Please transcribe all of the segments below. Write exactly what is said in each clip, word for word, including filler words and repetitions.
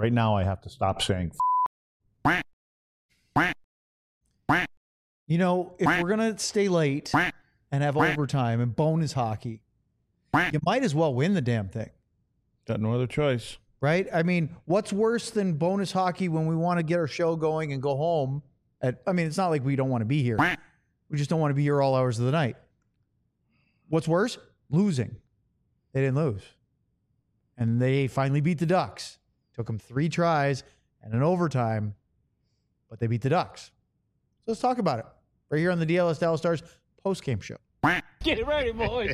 Right now, I have to stop saying. You know, if we're gonna stay late and have overtime and bonus hockey, you might as well win the damn thing. Got no other choice. Right? I mean, what's worse than bonus hockey when we want to get our show going and go home? At, I mean, it's not like we don't want to be here. We just don't want to be here all hours of the night. What's worse? Losing. They didn't lose. And they finally beat the Ducks. Took them three tries and an overtime, but they beat the Ducks. So let's talk about it right here on the D L S Dallas Stars post-game show. Get it ready, boys.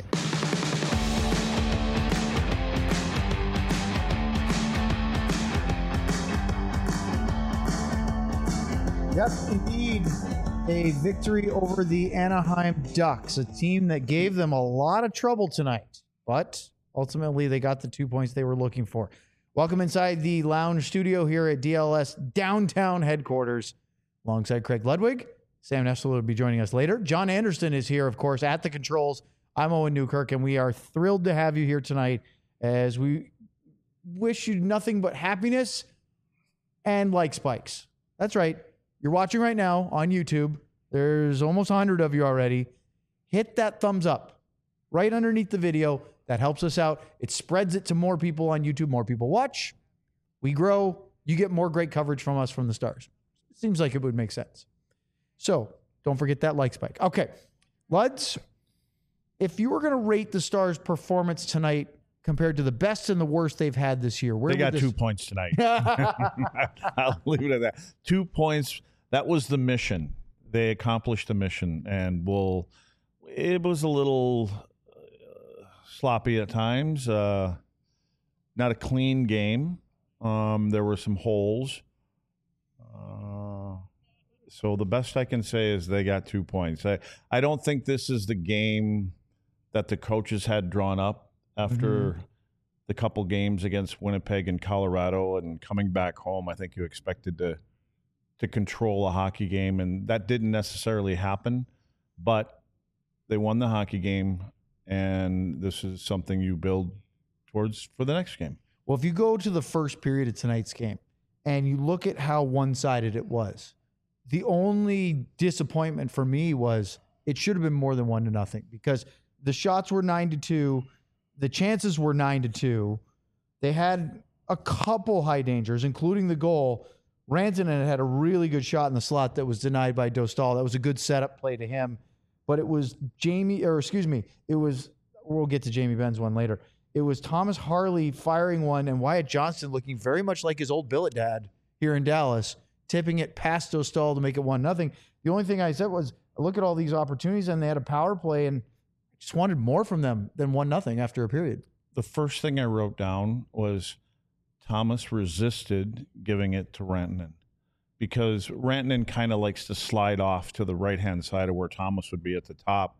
Yep, indeed. A victory over the Anaheim Ducks, a team that gave them a lot of trouble tonight, but ultimately they got the two points they were looking for. Welcome inside the lounge studio here at D L S downtown headquarters. Alongside Craig Ludwig, Sam Nessel will be joining us later. John Anderson is here, of course, at the controls. I'm Owen Newkirk, and we are thrilled to have you here tonight as we wish you nothing but happiness and like spikes. That's right. You're watching right now on YouTube. There's almost one hundred of you already. Hit that thumbs up right underneath the video. That helps us out. It spreads it to more people on YouTube. More people watch. We grow. You get more great coverage from us from the Stars. Seems like it would make sense. So don't forget that like spike. Okay, Luds, if you were going to rate the Stars' performance tonight compared to the best and the worst they've had this year, where they got this... two points tonight. I'll leave it at that. Two points. That was the mission. They accomplished the mission, and we'll. It was a little uh, sloppy at times. Uh, not a clean game. Um, there were some holes. Uh, so the best I can say is they got two points. I, I don't think this is the game that the coaches had drawn up after mm-hmm. the couple games against Winnipeg and Colorado, and coming back home. I think you expected to to control a hockey game, and that didn't necessarily happen. But they won the hockey game, and this is something you build towards for the next game. Well, if you go to the first period of tonight's game and you look at how one-sided it was, the only disappointment for me was it should have been more than one to nothing, because the shots were nine to two, the chances were nine to two. They had a couple high dangers, including the goal. Rantanen had a really good shot in the slot that was denied by Dostal. That was a good setup play to him. But it was Jamie, or excuse me, it was, we'll get to Jamie Benn's one later. It was Thomas Harley firing one and Wyatt Johnston looking very much like his old billet dad here in Dallas, tipping it past Dostal to make it one nothing. The only thing I said was, look at all these opportunities, and they had a power play, and just wanted more from them than one nothing after a period. The first thing I wrote down was Thomas resisted giving it to Rantanen, because Rantanen kind of likes to slide off to the right-hand side of where Thomas would be at the top.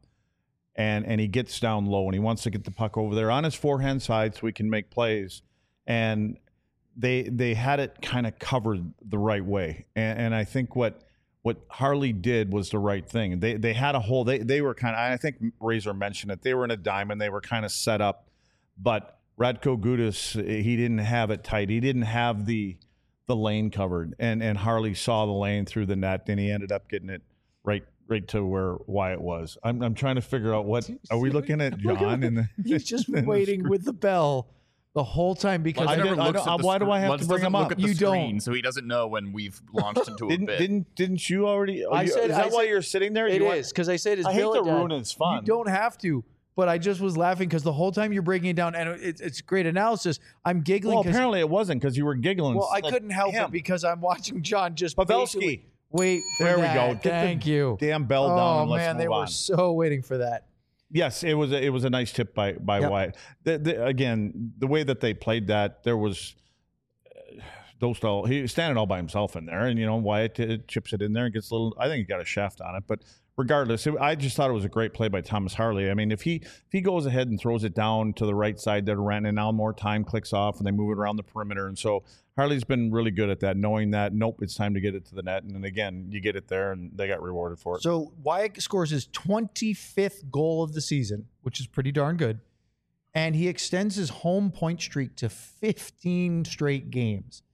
And and he gets down low, and he wants to get the puck over there on his forehand side so he can make plays. And they they had it kind of covered the right way. And, and I think what what Harley did was the right thing. They they had a hole. They they were kind of, I think Razor mentioned it, they were in a diamond. They were kind of set up. But Radko Gudas, he didn't have it tight. He didn't have the the lane covered. And and Harley saw the lane through the net, and he ended up getting it right right to where Wyatt was. I'm I'm trying to figure out what are we looking at, John? And the, he's just waiting with the bell the whole time, because Lutz I never I looks at the why do I have Lutz to bring him look up? At the You screen, don't. so he doesn't know when we've launched into a didn't bit. didn't didn't you already? I you, said- is that I why said- you're sitting there? it You is because I said his I hate billet to dad. ruin his fun. You don't have to, but I just was laughing because the whole time you're breaking it down, and it's, it's great analysis. I'm giggling. Well, 'cause- apparently it wasn't, because you were giggling. well, I like couldn't help him. it because I'm watching John just Pavelski. patiently wait for There we that. go. Get the Thank you. Damn bell down. Oh and let's man, move they on. were so waiting for that. Yes, it was. A, it was a nice tip by by Yep. Wyatt. The, the, again, the way that they played that, there was uh, Dostal. He was standing all by himself in there, and you know Wyatt uh, chips it in there and gets a little. I think he got a shaft on it, but regardless, it, I just thought it was a great play by Thomas Harley. I mean, if he if he goes ahead and throws it down to the right side there to Rantanen, and now more time clicks off, and they move it around the perimeter, and so Harley's been really good at that, knowing that nope, it's time to get it to the net, and then again, you get it there, and they got rewarded for it. So Wyatt scores his twenty-fifth goal of the season, which is pretty darn good. And he extends his home point streak to fifteen straight games.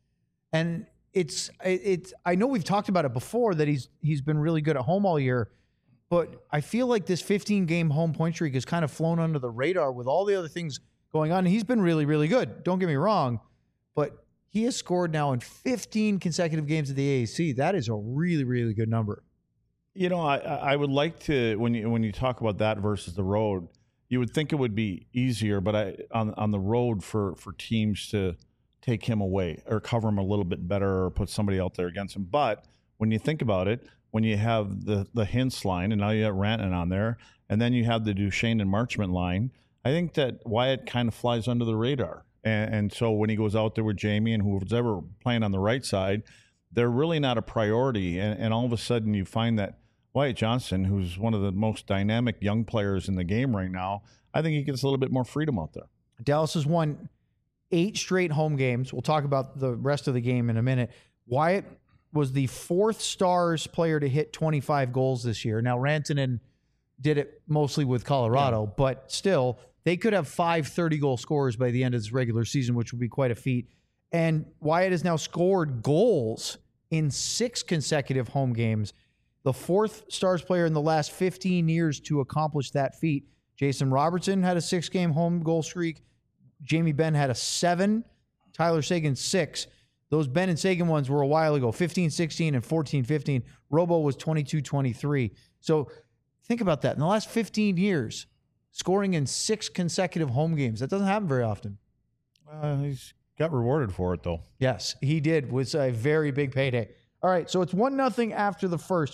And it's it's I know we've talked about it before that he's he's been really good at home all year, but I feel like this fifteen game home point streak has kind of flown under the radar with all the other things going on. And he's been really, really good. Don't get me wrong, but he has scored now in fifteen consecutive games at the A A C. That is a really, really good number. You know, I I would like to when you when you talk about that versus the road, you would think it would be easier, but I on on the road for for teams to take him away or cover him a little bit better or put somebody out there against him. But when you think about it, when you have the the Hintz line and now you have Rantanen on there, and then you have the Duchesne and Marchment line, I think that Wyatt kind of flies under the radar. And, and so when he goes out there with Jamie and whoever's ever playing on the right side, they're really not a priority. And, and all of a sudden you find that Wyatt Johnston, who's one of the most dynamic young players in the game right now, I think he gets a little bit more freedom out there. Dallas has won eight straight home games. We'll talk about the rest of the game in a minute. Wyatt was the fourth Stars player to hit twenty-five goals this year. Now, Rantanen did it mostly with Colorado, yeah. but still, they could have five thirty-goal scorers by the end of this regular season, which would be quite a feat. And Wyatt has now scored goals in six consecutive home games, the fourth Stars player in the last fifteen years to accomplish that feat. Jason Robertson had a six-game home goal streak. Jamie Benn had a seven. Tyler Seguin, six. Those Benn and Seguin ones were a while ago, fifteen sixteen and fourteen fifteen. Robo was twenty-two twenty-three. So think about that. In the last fifteen years, scoring in six consecutive home games. That doesn't happen very often. Uh, he's got rewarded for it, though. Yes, he did. It was a very big payday. All right, so it's one nothing after the first.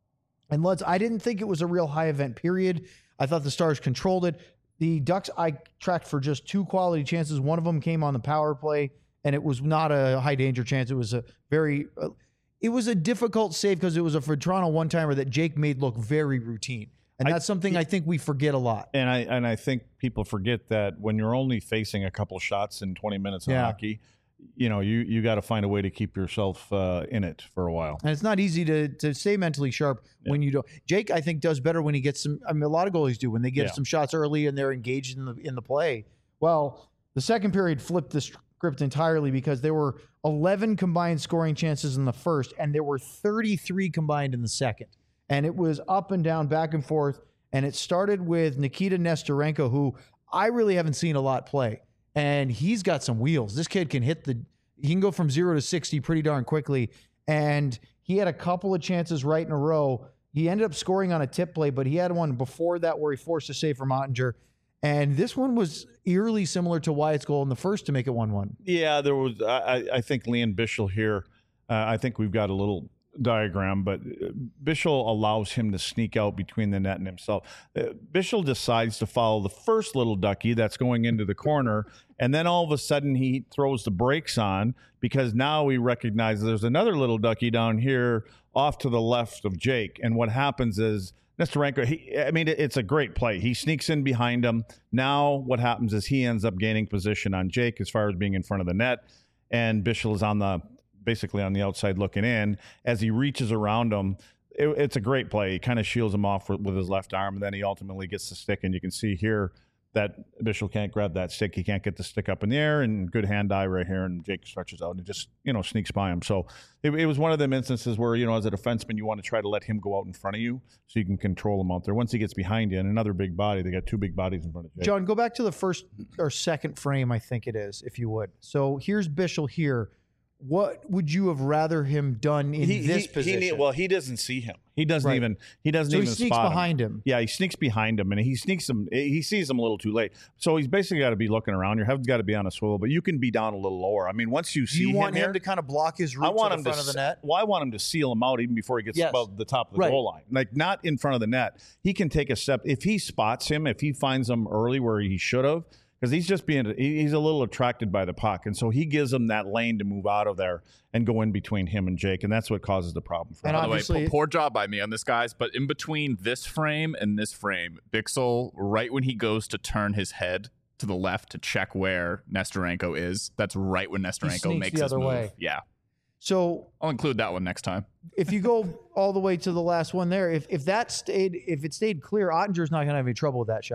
And let's, I didn't think it was a real high event period. I thought the Stars controlled it. The Ducks, I tracked for just two quality chances. One of them came on the power play, and it was not a high danger chance. It was a very, uh, it was a difficult save because it was a for Toronto one-timer that Jake made look very routine. And that's I, something I think we forget a lot. And I and I think people forget that when you're only facing a couple shots in twenty minutes of yeah. hockey, you know, you, you got to find a way to keep yourself uh, in it for a while. And it's not easy to to stay mentally sharp yeah. when you don't. Jake, I think, does better when he gets some. I mean, a lot of goalies do when they get yeah. some shots early and they're engaged in the in the play. Well, the second period flipped the script entirely because there were eleven combined scoring chances in the first, and there were thirty-three combined in the second. And it was up and down, back and forth. And it started with Nikita Nesterenko, who I really haven't seen a lot play. And he's got some wheels. This kid can hit the, he can go from zero to sixty pretty darn quickly. And he had a couple of chances right in a row. He ended up scoring on a tip play, but he had one before that where he forced a save from Ottinger. And this one was eerily similar to Wyatt's goal in the first to make it one one. Yeah, there was, I, I think Lian Bichsel here, uh, I think we've got a little diagram, but Bichsel allows him to sneak out between the net and himself. Uh, Bichsel decides to follow the first little ducky that's going into the corner, and then all of a sudden he throws the brakes on because now he recognizes there's another little ducky down here off to the left of Jake. And what happens is Nesterenko, he, I mean, it's a great play. He sneaks in behind him. Now what happens is he ends up gaining position on Jake as far as being in front of the net, and Bichsel is on the basically on the outside looking in. As he reaches around him, it, it's a great play. He kind of shields him off with, with his left arm, and then he ultimately gets the stick. And you can see here that Bichsel can't grab that stick. He can't get the stick up in the air, and good hand eye right here, and Jake stretches out and just, you know, sneaks by him. So it, it was one of them instances where, you know, as a defenseman, you want to try to let him go out in front of you so you can control him out there. Once he gets behind you and another big body, they got two big bodies in front of Jake. John, go back to the first or second frame, I think it is, if you would. So here's Bichsel here. What would you have rather him done in he, this he, position? He, well, he doesn't see him. He doesn't right. even. He doesn't so even he sneaks spot behind him. him. Yeah, he sneaks behind him, and he sneaks him. He sees him a little too late. So he's basically got to be looking around. Your head's got to be on a swivel, but you can be down a little lower. I mean, once you see Do you him, want him here, to kind of block his route I want to the him front to, of the net? Well, I want him to seal him out even before he gets yes. above the top of the right. goal line. Like not in front of the net. He can take a step if he spots him. If he finds him early where he should have. Because he's just being, he's a little attracted by the puck. And so he gives him that lane to move out of there and go in between him and Jake. And that's what causes the problem for him. By the way, poor, poor job by me on this, guys. But in between this frame and this frame, Bichsel, right when he goes to turn his head to the left to check where Nesterenko is, that's right when Nesterenko makes the his other move. way. Yeah. So I'll include that one next time. If you go all the way to the last one there, if if that stayed, if it stayed clear, Ottinger's not going to have any trouble with that shot.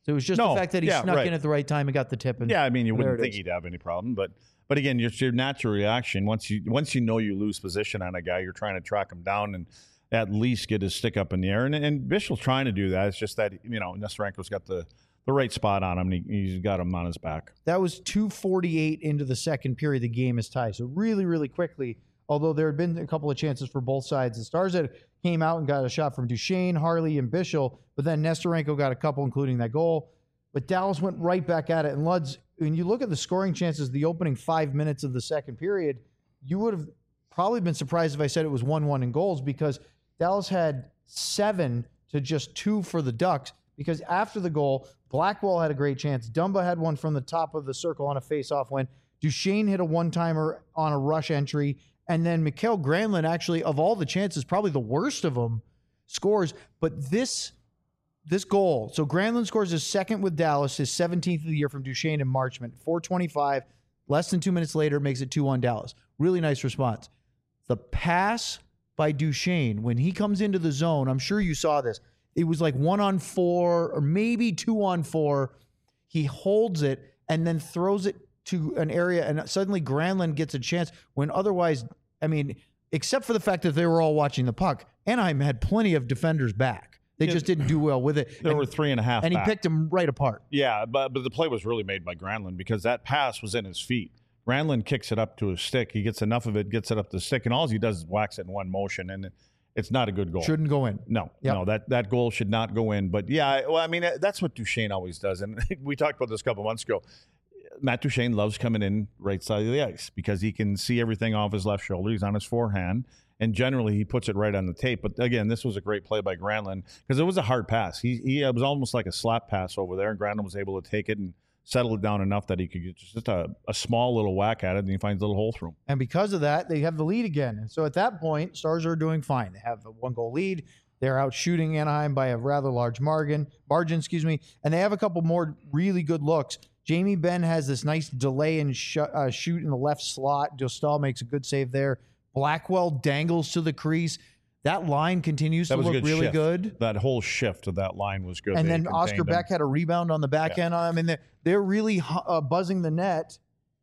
So it was just No, the fact that he yeah, snuck right. in at the right time and got the tip. And Yeah, I mean, you there wouldn't it think is. he'd have any problem, but but again, your, your natural reaction once you once you know you lose position on a guy, you're trying to track him down and at least get his stick up in the air. And, and Bischel's trying to do that. It's just that you know Nesterenko's got the the right spot on him. And he, he's got him on his back. That was two forty-eight into the second period. The game is tied. So really, really quickly, although there had been a couple of chances for both sides, the Stars had came out and got a shot from Duchesne, Harley, and Bischel, but then Nesterenko got a couple, including that goal. But Dallas went right back at it. And Luds, when you look at the scoring chances, the opening five minutes of the second period, you would have probably been surprised if I said it was one one in goals because Dallas had seven to just two for the Ducks. Because after the goal, Blackwell had a great chance. Dumba had one from the top of the circle on a face-off win. Duchesne hit a one-timer on a rush entry. And then Mikael Granlund, actually, of all the chances, probably the worst of them, scores. But this this goal, so Granlund scores his second with Dallas, his seventeenth of the year from Duchesne and Marchment. four twenty-five, less than two minutes later, makes it two one Dallas. Really nice response. The pass by Duchesne, when he comes into the zone, I'm sure you saw this. It was like one on four or maybe two on four. He holds it and then throws it to an area, and suddenly Granlund gets a chance when otherwise, I mean, except for the fact that they were all watching the puck, Anaheim had plenty of defenders back. They Yeah, just didn't do well with it. There and, were three and a half, and he back. picked them right apart. Yeah, but but the play was really made by Granlund because that pass was in his feet. Granlund kicks it up to his stick. He gets enough of it, gets it up the stick, and all he does is whacks it in one motion, and it's not a good goal. Shouldn't go in. No, Yep. no, that, that goal should not go in. But yeah, well, I mean, that's what Duchesne always does. And we talked about this a couple months ago. Matt Duchesne loves coming in right side of the ice because he can see everything off his left shoulder. He's on his forehand. And generally, he puts it right on the tape. But again, this was a great play by Granlund because it was a hard pass. He, he it was almost like a slap pass over there, and Granlund was able to take it and settle it down enough that he could get just a, a small little whack at it, and he finds a little hole through him. And because of that, they have the lead again. And so at that point, Stars are doing fine. They have a one-goal lead. They're out shooting Anaheim by a rather large margin, margin, excuse me. And they have a couple more really good looks. Jamie Benn has this nice delay and sh- uh, shoot in the left slot. Dostal makes a good save there. Blackwell dangles to the crease. That line continues That to was a look good really shift. good. That whole shift of that line was good. And They then contained Oscar him. Beck had a rebound on the back Yeah. end. I mean, they're, they're really uh, buzzing the net.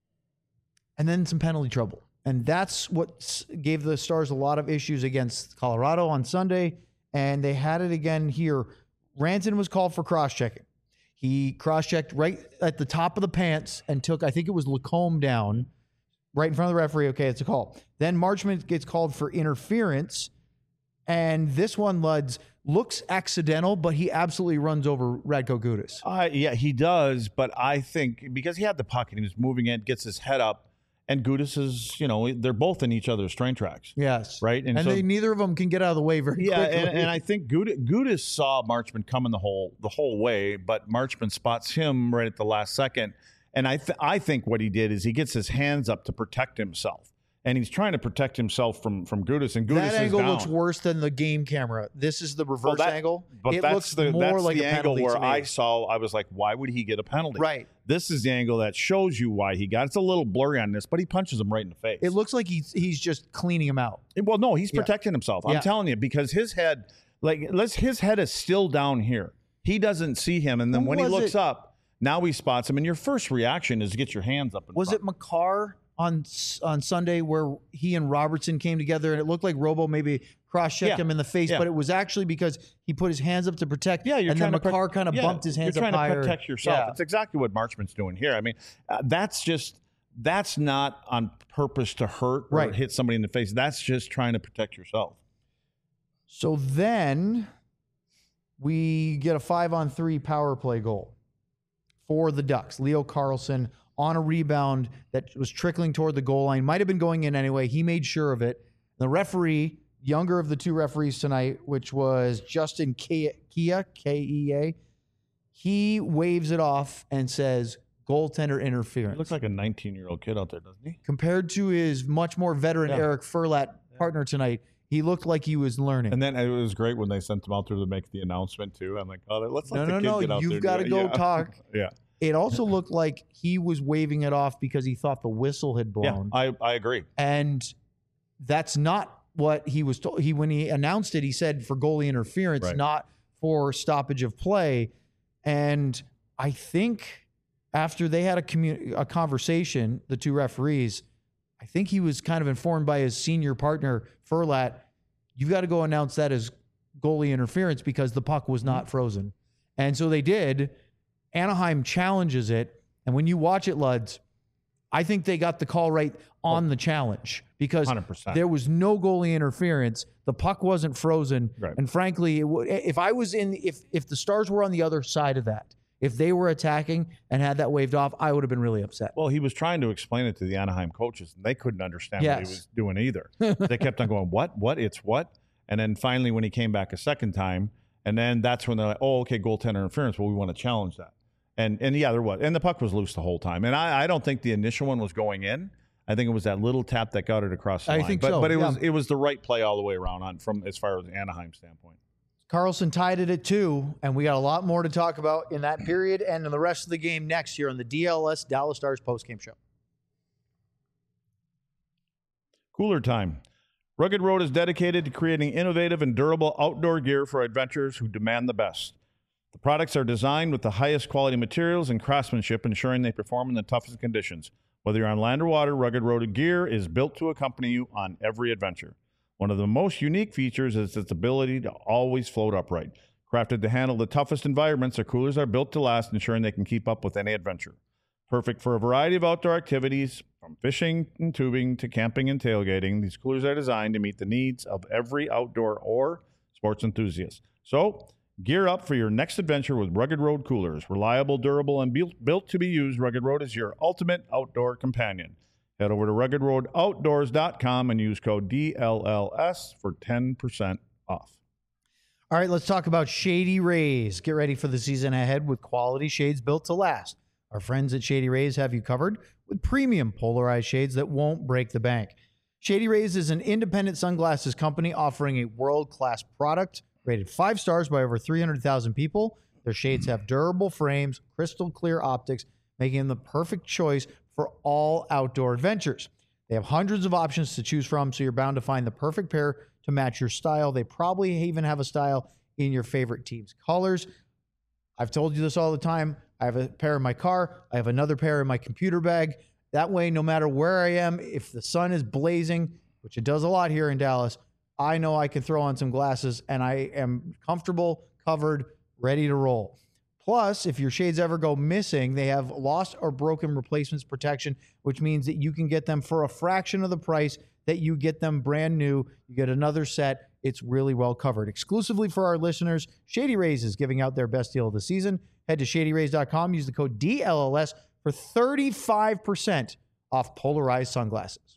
And then some penalty trouble. And that's what s- gave the Stars a lot of issues against Colorado on Sunday. And they had it again here. Ranton was called for cross-checking. He cross-checked right at the top of the pants and took, I think it was Lacombe down right in front of the referee. Okay, it's a call. Then Marchment gets called for interference. And this one, Luds, looks accidental, but he absolutely runs over Radko Gudas. Uh, yeah, he does, but I think because he had the puck and he was moving it, gets his head up, and Gudas is, you know, they're both in each other's train tracks. Yes. Right? And, And so- they, neither of them can get out of the way very Yeah, quickly. and, and I think Gudis, Gudis saw Marchman coming the whole the whole way, but Marchman spots him right at the last second. And I th- I think what he did is he gets his hands up to protect himself, and he's trying to protect himself from from Gudis. And Gudis that is angle down. looks worse than the game camera. This is the reverse Well, that- angle. But it that's looks the more that's like the a angle penalty where to me. I saw. I was like, why would he get a penalty? Right. This is the angle that shows you why he got. It's a little blurry on this, but he punches him right in the face. It looks like he's he's just cleaning him out. Well, no, he's Yeah. protecting himself. I'm Yeah. telling you, because his head, like, let's his head is still down here. He doesn't see him, and then Who when he was looks it? up, now he spots him. And your first reaction is to get your hands up. In Was front. it McCarr on on Sunday where he and Robertson came together and it looked like Robo maybe cross-checked Yeah. him in the face, Yeah. but it was actually because he put his hands up to protect. Yeah, you're and trying then to pro- McCarr kind of yeah, bumped his hands You're trying up higher. to protect yourself. Yeah. That's exactly what Marchman's doing here. I mean, uh, that's just that's not on purpose to hurt or Right. hit somebody in the face. That's just trying to protect yourself. So then we get a five on three power play goal for the Ducks. Leo Carlson on a rebound that was trickling toward the goal line. Might have been going in anyway. He made sure of it. The referee, younger of the two referees tonight, which was Justin Kia, Kia K E A, he waves it off and says, goaltender He interference. looks like a nineteen-year-old kid out there, doesn't he? Compared to his much more veteran Yeah. Eric Furlat partner tonight, he looked like he was learning. And then it was great when they sent him out there to make the announcement too. I'm like, oh, let's let No, the no, kid no, get out there. you've and got do to it. go Yeah. talk. Yeah, It also looked like he was waving it off because he thought the whistle had yeah, blown. I I agree. And that's not what he was told. He when he announced it, he said for goalie interference, Right. not for stoppage of play. And I think after they had a, commu- a conversation, the two referees, I think he was kind of informed by his senior partner, Furlat, you've got to go announce that as goalie interference because the puck was not frozen. And so they did. Anaheim challenges it. And when you watch it, Luds, I think they got the call right on the challenge because one hundred percent. there was no goalie interference. The puck wasn't frozen. Right. And frankly, it w- if I was in, if if the Stars were on the other side of that, if they were attacking and had that waved off, I would have been really upset. Well, he was trying to explain it to the Anaheim coaches, and they couldn't understand what Yes. he was doing either. They kept on going, what, what, it's what? And then finally when he came back a second time, and then that's when they're like, oh, okay, goaltender interference. Well, we want to challenge that. And and yeah, there was. And the puck was loose the whole time. And I, I don't think the initial one was going in. I think it was that little tap that got it across the I line. think but, so, But it yeah. was it was the right play all the way around on from as far as Anaheim standpoint. Carlson tied it at two, and we got a lot more to talk about in that period and in the rest of the game next year on the D L S Dallas Stars postgame show. Cooler time. Rugged Road is dedicated to creating innovative and durable outdoor gear for adventurers who demand the best. The products are designed with the highest quality materials and craftsmanship, ensuring they perform in the toughest conditions. Whether you're on land or water, Rugged Road gear is built to accompany you on every adventure. One of the most unique features is its ability to always float upright. Crafted to handle the toughest environments, their coolers are built to last, ensuring they can keep up with any adventure. Perfect for a variety of outdoor activities, from fishing and tubing to camping and tailgating. These coolers are designed to meet the needs of every outdoor or sports enthusiast. So, gear up for your next adventure with Rugged Road coolers. Reliable, durable, and built, built to be used, Rugged Road is your ultimate outdoor companion. Head over to rugged road outdoors dot com and use code D L L S for ten percent off. All right, let's talk about Shady Rays. Get ready for the season ahead with quality shades built to last. Our friends at Shady Rays have you covered with premium polarized shades that won't break the bank. Shady Rays is an independent sunglasses company offering a world-class product rated five stars by over three hundred thousand people. Their shades have durable frames, crystal clear optics, making them the perfect choice for all outdoor adventures. They have hundreds of options to choose from, so you're bound to find the perfect pair to match your style. They probably even have a style in your favorite team's colors. I've told you this all the time. I have a pair in my car. I have another pair in my computer bag. That way, no matter where I am, if the sun is blazing, which it does a lot here in Dallas, I know I can throw on some glasses and I am comfortable, covered, ready to roll. Plus, if your shades ever go missing, they have lost or broken replacements protection, which means that you can get them for a fraction of the price that you get them brand new. You get another set. It's really well covered. Exclusively for our listeners, Shady Rays is giving out their best deal of the season. Head to shady rays dot com. Use the code D L L S for thirty-five percent off polarized sunglasses.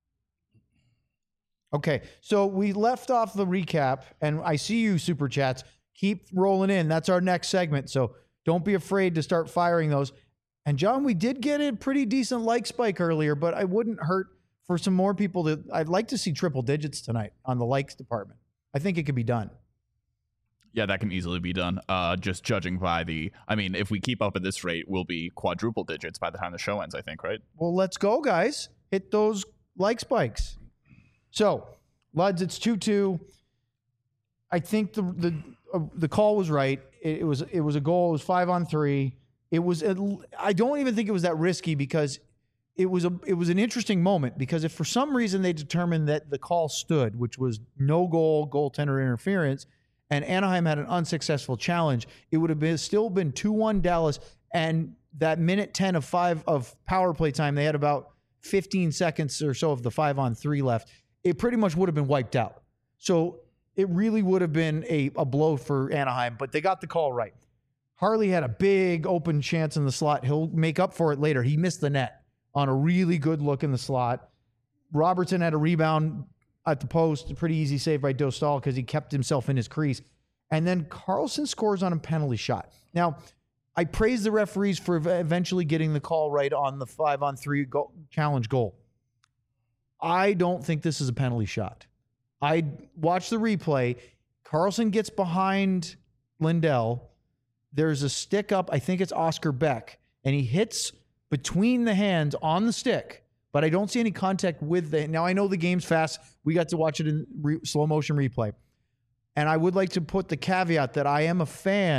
Okay, so we left off the recap, and I see you, Super Chats. Keep rolling in. That's our next segment, so don't be afraid to start firing those. And, John, we did get a pretty decent like spike earlier, but I wouldn't hurt for some more people to... I'd like to see triple digits tonight on the likes department. I think it could be done. Yeah, that can easily be done. Uh, just judging by the... I mean, if we keep up at this rate, we'll be quadruple digits by the time the show ends, I think, right? Well, let's go, guys. Hit those like spikes. So, Luds, it's two two. I think the the uh, the call was right. It, it was it was a goal. It was five on three. It was. A, I don't even think it was that risky because it was a it was an interesting moment because if for some reason they determined that the call stood, which was no goal, goaltender interference, and Anaheim had an unsuccessful challenge, it would have been still been two one Dallas. And that minute ten of five of power play time, they had about fifteen seconds or so of the five on three left. It pretty much would have been wiped out. So it really would have been a, a blow for Anaheim, but they got the call right. Harley had a big open chance in the slot. He'll make up for it later. He missed the net on a really good look in the slot. Robertson had a rebound at the post, a pretty easy save by Dostal because he kept himself in his crease. And then Carlson scores on a penalty shot. Now, I praise the referees for eventually getting the call right on the five on three goal, challenge goal. I don't think this is a penalty shot. I watched the replay. Carlson gets behind Lindell. There's a stick up. I think it's Oscar Beck. And he hits between the hands on the stick. But I don't see any contact with the... Now, I know the game's fast. We got to watch it in re, slow motion replay. And I would like to put the caveat that I am a fan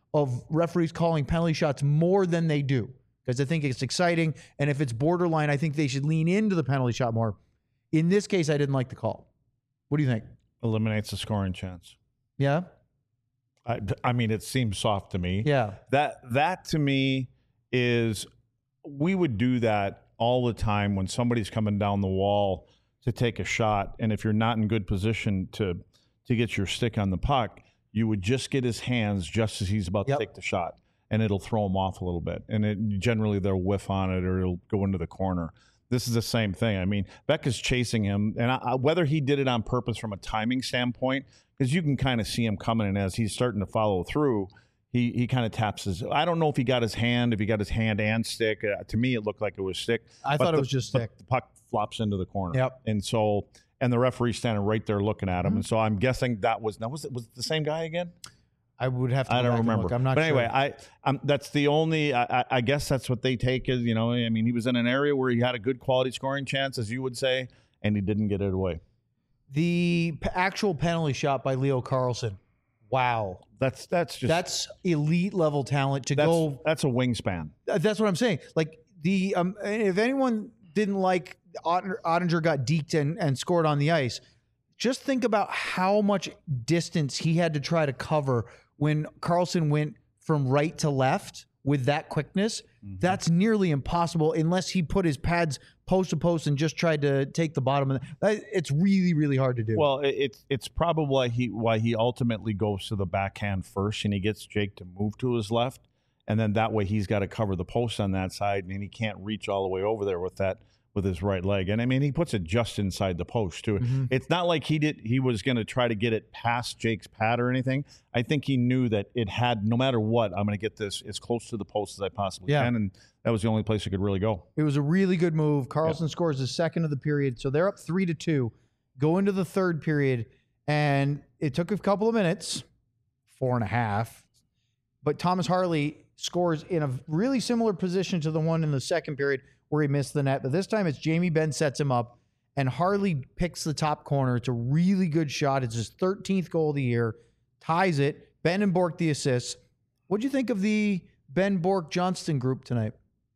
of referees calling penalty shots more than they do because I think it's exciting. And if it's borderline, I think they should lean into the penalty shot more. In this case, I didn't like the call. What do you think? Eliminates the scoring chance. Yeah? I, I mean, it seems soft to me. Yeah. That that to me is, we would do that all the time when somebody's coming down the wall to take a shot, and if you're not in good position to to get your stick on the puck, you would just get his hands just as he's about Yep. to take the shot, and it'll throw him off a little bit, and it generally they'll whiff on it or it'll go into the corner. This is the same thing. I mean, Beck is chasing him, and I, whether he did it on purpose from a timing standpoint, because you can kind of see him coming, and as he's starting to follow through, he he kind of taps his. I don't know if he got his hand, if he got his hand and stick. Uh, to me, it looked like it was stick. I but thought the, it was just but stick. The puck flops into the corner. Yep. And so, and the referee's standing right there looking at him, Mhm. and so I'm guessing that was now was it was it the same guy again? I would have to. I go don't back and remember. look. I'm not but sure. anyway, I um, that's the only. I, I- I guess that's what they take as, you know. I mean, he was in an area where he had a good quality scoring chance, as you would say, and he didn't get it away. The p- actual penalty shot by Leo Carlson. Wow. That's that's just That's elite level talent to that's go. that's a wingspan. That's what I'm saying. Like the um, if anyone didn't like Otten- Ottinger got deked and, and scored on the ice, just think about how much distance he had to try to cover when Carlson went from right to left with that quickness. Mm-hmm. That's nearly impossible unless he put his pads post to post and just tried to take the bottom of the, it's really, really hard to do. Well, it- it's it's probably why he why he ultimately goes to the backhand first, and he gets Jake to move to his left, and then that way he's got to cover the post on that side, and he can't reach all the way over there with that with his right leg. And I mean, he puts it just inside the post too. Mm-hmm. It's not like he did he was going to try to get it past Jake's pad or anything. I think he knew that it had, no matter what, I'm going to get this as close to the post as I possibly Yeah. can, and that was the only place it could really go. It was a really good move. Carlson scores the second of the period, so they're up three to two. Go into the third period, and it took a couple of minutes, four and a half. But Thomas Harley scores in a really similar position to the one in the second period where he missed the net. But this time it's Jamie Benn sets him up, and Harley picks the top corner. It's a really good shot. It's his thirteenth goal of the year, ties it. Ben and Bork the assists. What'd you think of the Ben Bork Johnston group tonight?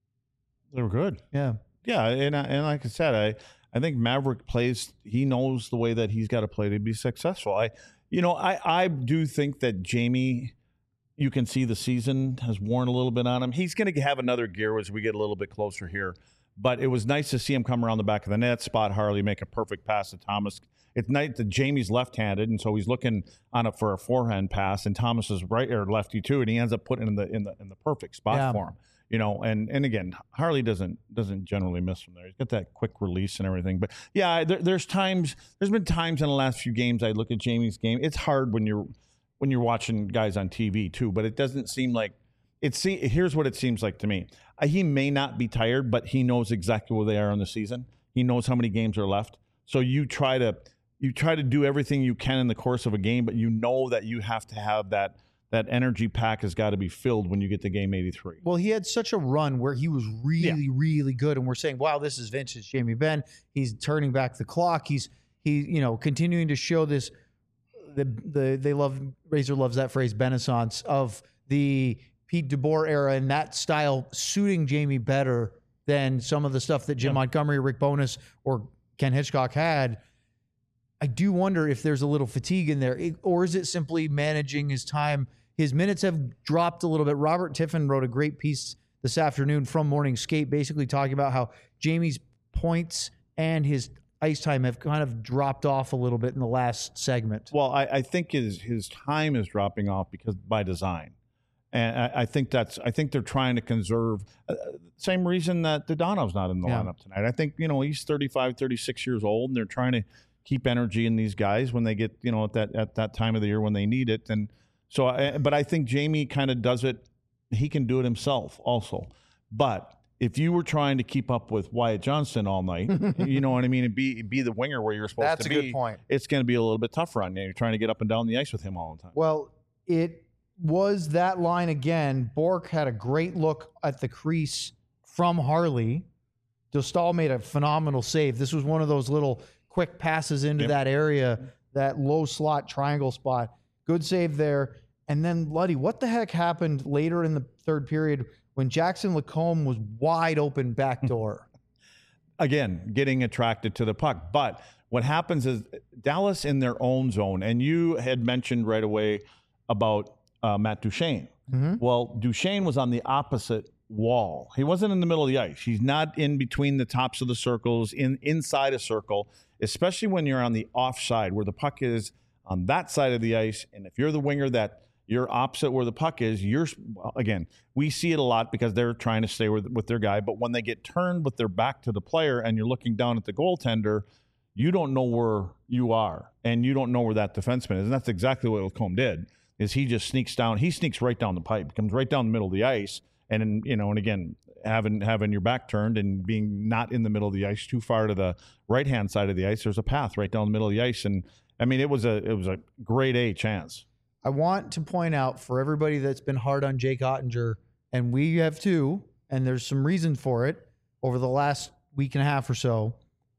They were good. Yeah. Yeah, and I- and like I said, I I think Maverick plays. He knows the way that he's got to play to be successful. I, you know, I I do think that Jamie, you can see the season has worn a little bit on him. He's going to have another gear as we get a little bit closer here. But it was nice to see him come around the back of the net, spot Harley, make a perfect pass to Thomas. It's nice that Jamie's left-handed, and so he's looking on it for a forehand pass, and Thomas is right or lefty too, and he ends up putting it in the in the in the perfect spot Yeah. for him. You know, and and again, Harley doesn't doesn't generally miss from there. He's got that quick release and everything. But yeah, there, there's times. There's been times in the last few games I look at Jamie's game. It's hard when you're when you're watching guys on T V too. But it doesn't seem like it. See, here's what it seems like to me. Uh, he may not be tired, but he knows exactly where they are in the season. He knows how many games are left. So you try to you try to do everything you can in the course of a game, but you know that you have to have that. That energy pack has got to be filled when you get to game eighty-three. Well, he had such a run where he was really, Yeah. really good, and we're saying, "Wow, this is vintage Jamie Benn." He's turning back the clock. He's he, you know, continuing to show this. The the they love Razor loves that phrase, Benaissance of the Pete DeBoer era, and that style suiting Jamie better than some of the stuff that Jim Yeah. Montgomery, Rick Bowness, or Ken Hitchcock had. I do wonder if there's a little fatigue in there, or is it simply managing his time? His minutes have dropped a little bit. Robert Tiffin wrote a great piece this afternoon from Morning Skate, basically talking about how Jamie's points and his ice time have kind of dropped off a little bit in the last segment. Well, I, I think his his time is dropping off because by design, and I, I think that's I think they're trying to conserve. Uh, same reason that Dodono's not in the Yeah. lineup tonight. I think you know he's thirty-five, thirty-six years old, and they're trying to keep energy in these guys when they get you know at that at that time of the year when they need it. And so, I, but I think Jamie kind of does it. He can do it himself also, but. If you were trying to keep up with Wyatt Johnston all night, you know what I mean, and be be the winger where you're supposed That's to a be, good point. it's going to be a little bit tougher on you. You're trying to get up and down the ice with him all the time. Well, it was that line again. Bork had a great look at the crease from Harley. Dostal made a phenomenal save. This was one of those little quick passes into Yep. that area, that low slot triangle spot. Good save there. And then, Luddy, what the heck happened later in the third period when Jackson Lacombe was wide open backdoor? Again, getting attracted to the puck. But what happens is Dallas in their own zone, and you had mentioned right away about uh, Matt Duchene. Mm-hmm. Well, Duchene was on the opposite wall. He wasn't in the middle of the ice. He's not in between the tops of the circles, in inside a circle, especially when you're on the offside where the puck is on that side of the ice. And if you're the winger that you're opposite where the puck is, you're, again, we see it a lot because they're trying to stay with, with their guy. But when they get turned with their back to the player and you're looking down at the goaltender, you don't know where you are and you don't know where that defenseman is. And that's exactly what Lacombe did, is he just sneaks down. He sneaks right down the pipe, comes right down the middle of the ice. And, you know, and again, having having your back turned and being not in the middle of the ice, too far to the right-hand side of the ice, there's a path right down the middle of the ice. And, I mean, it was a it was a grade A chance. I want to point out for everybody that's been hard on Jake Ottinger, and we have too, and there's some reason for it over the last week and a half or so,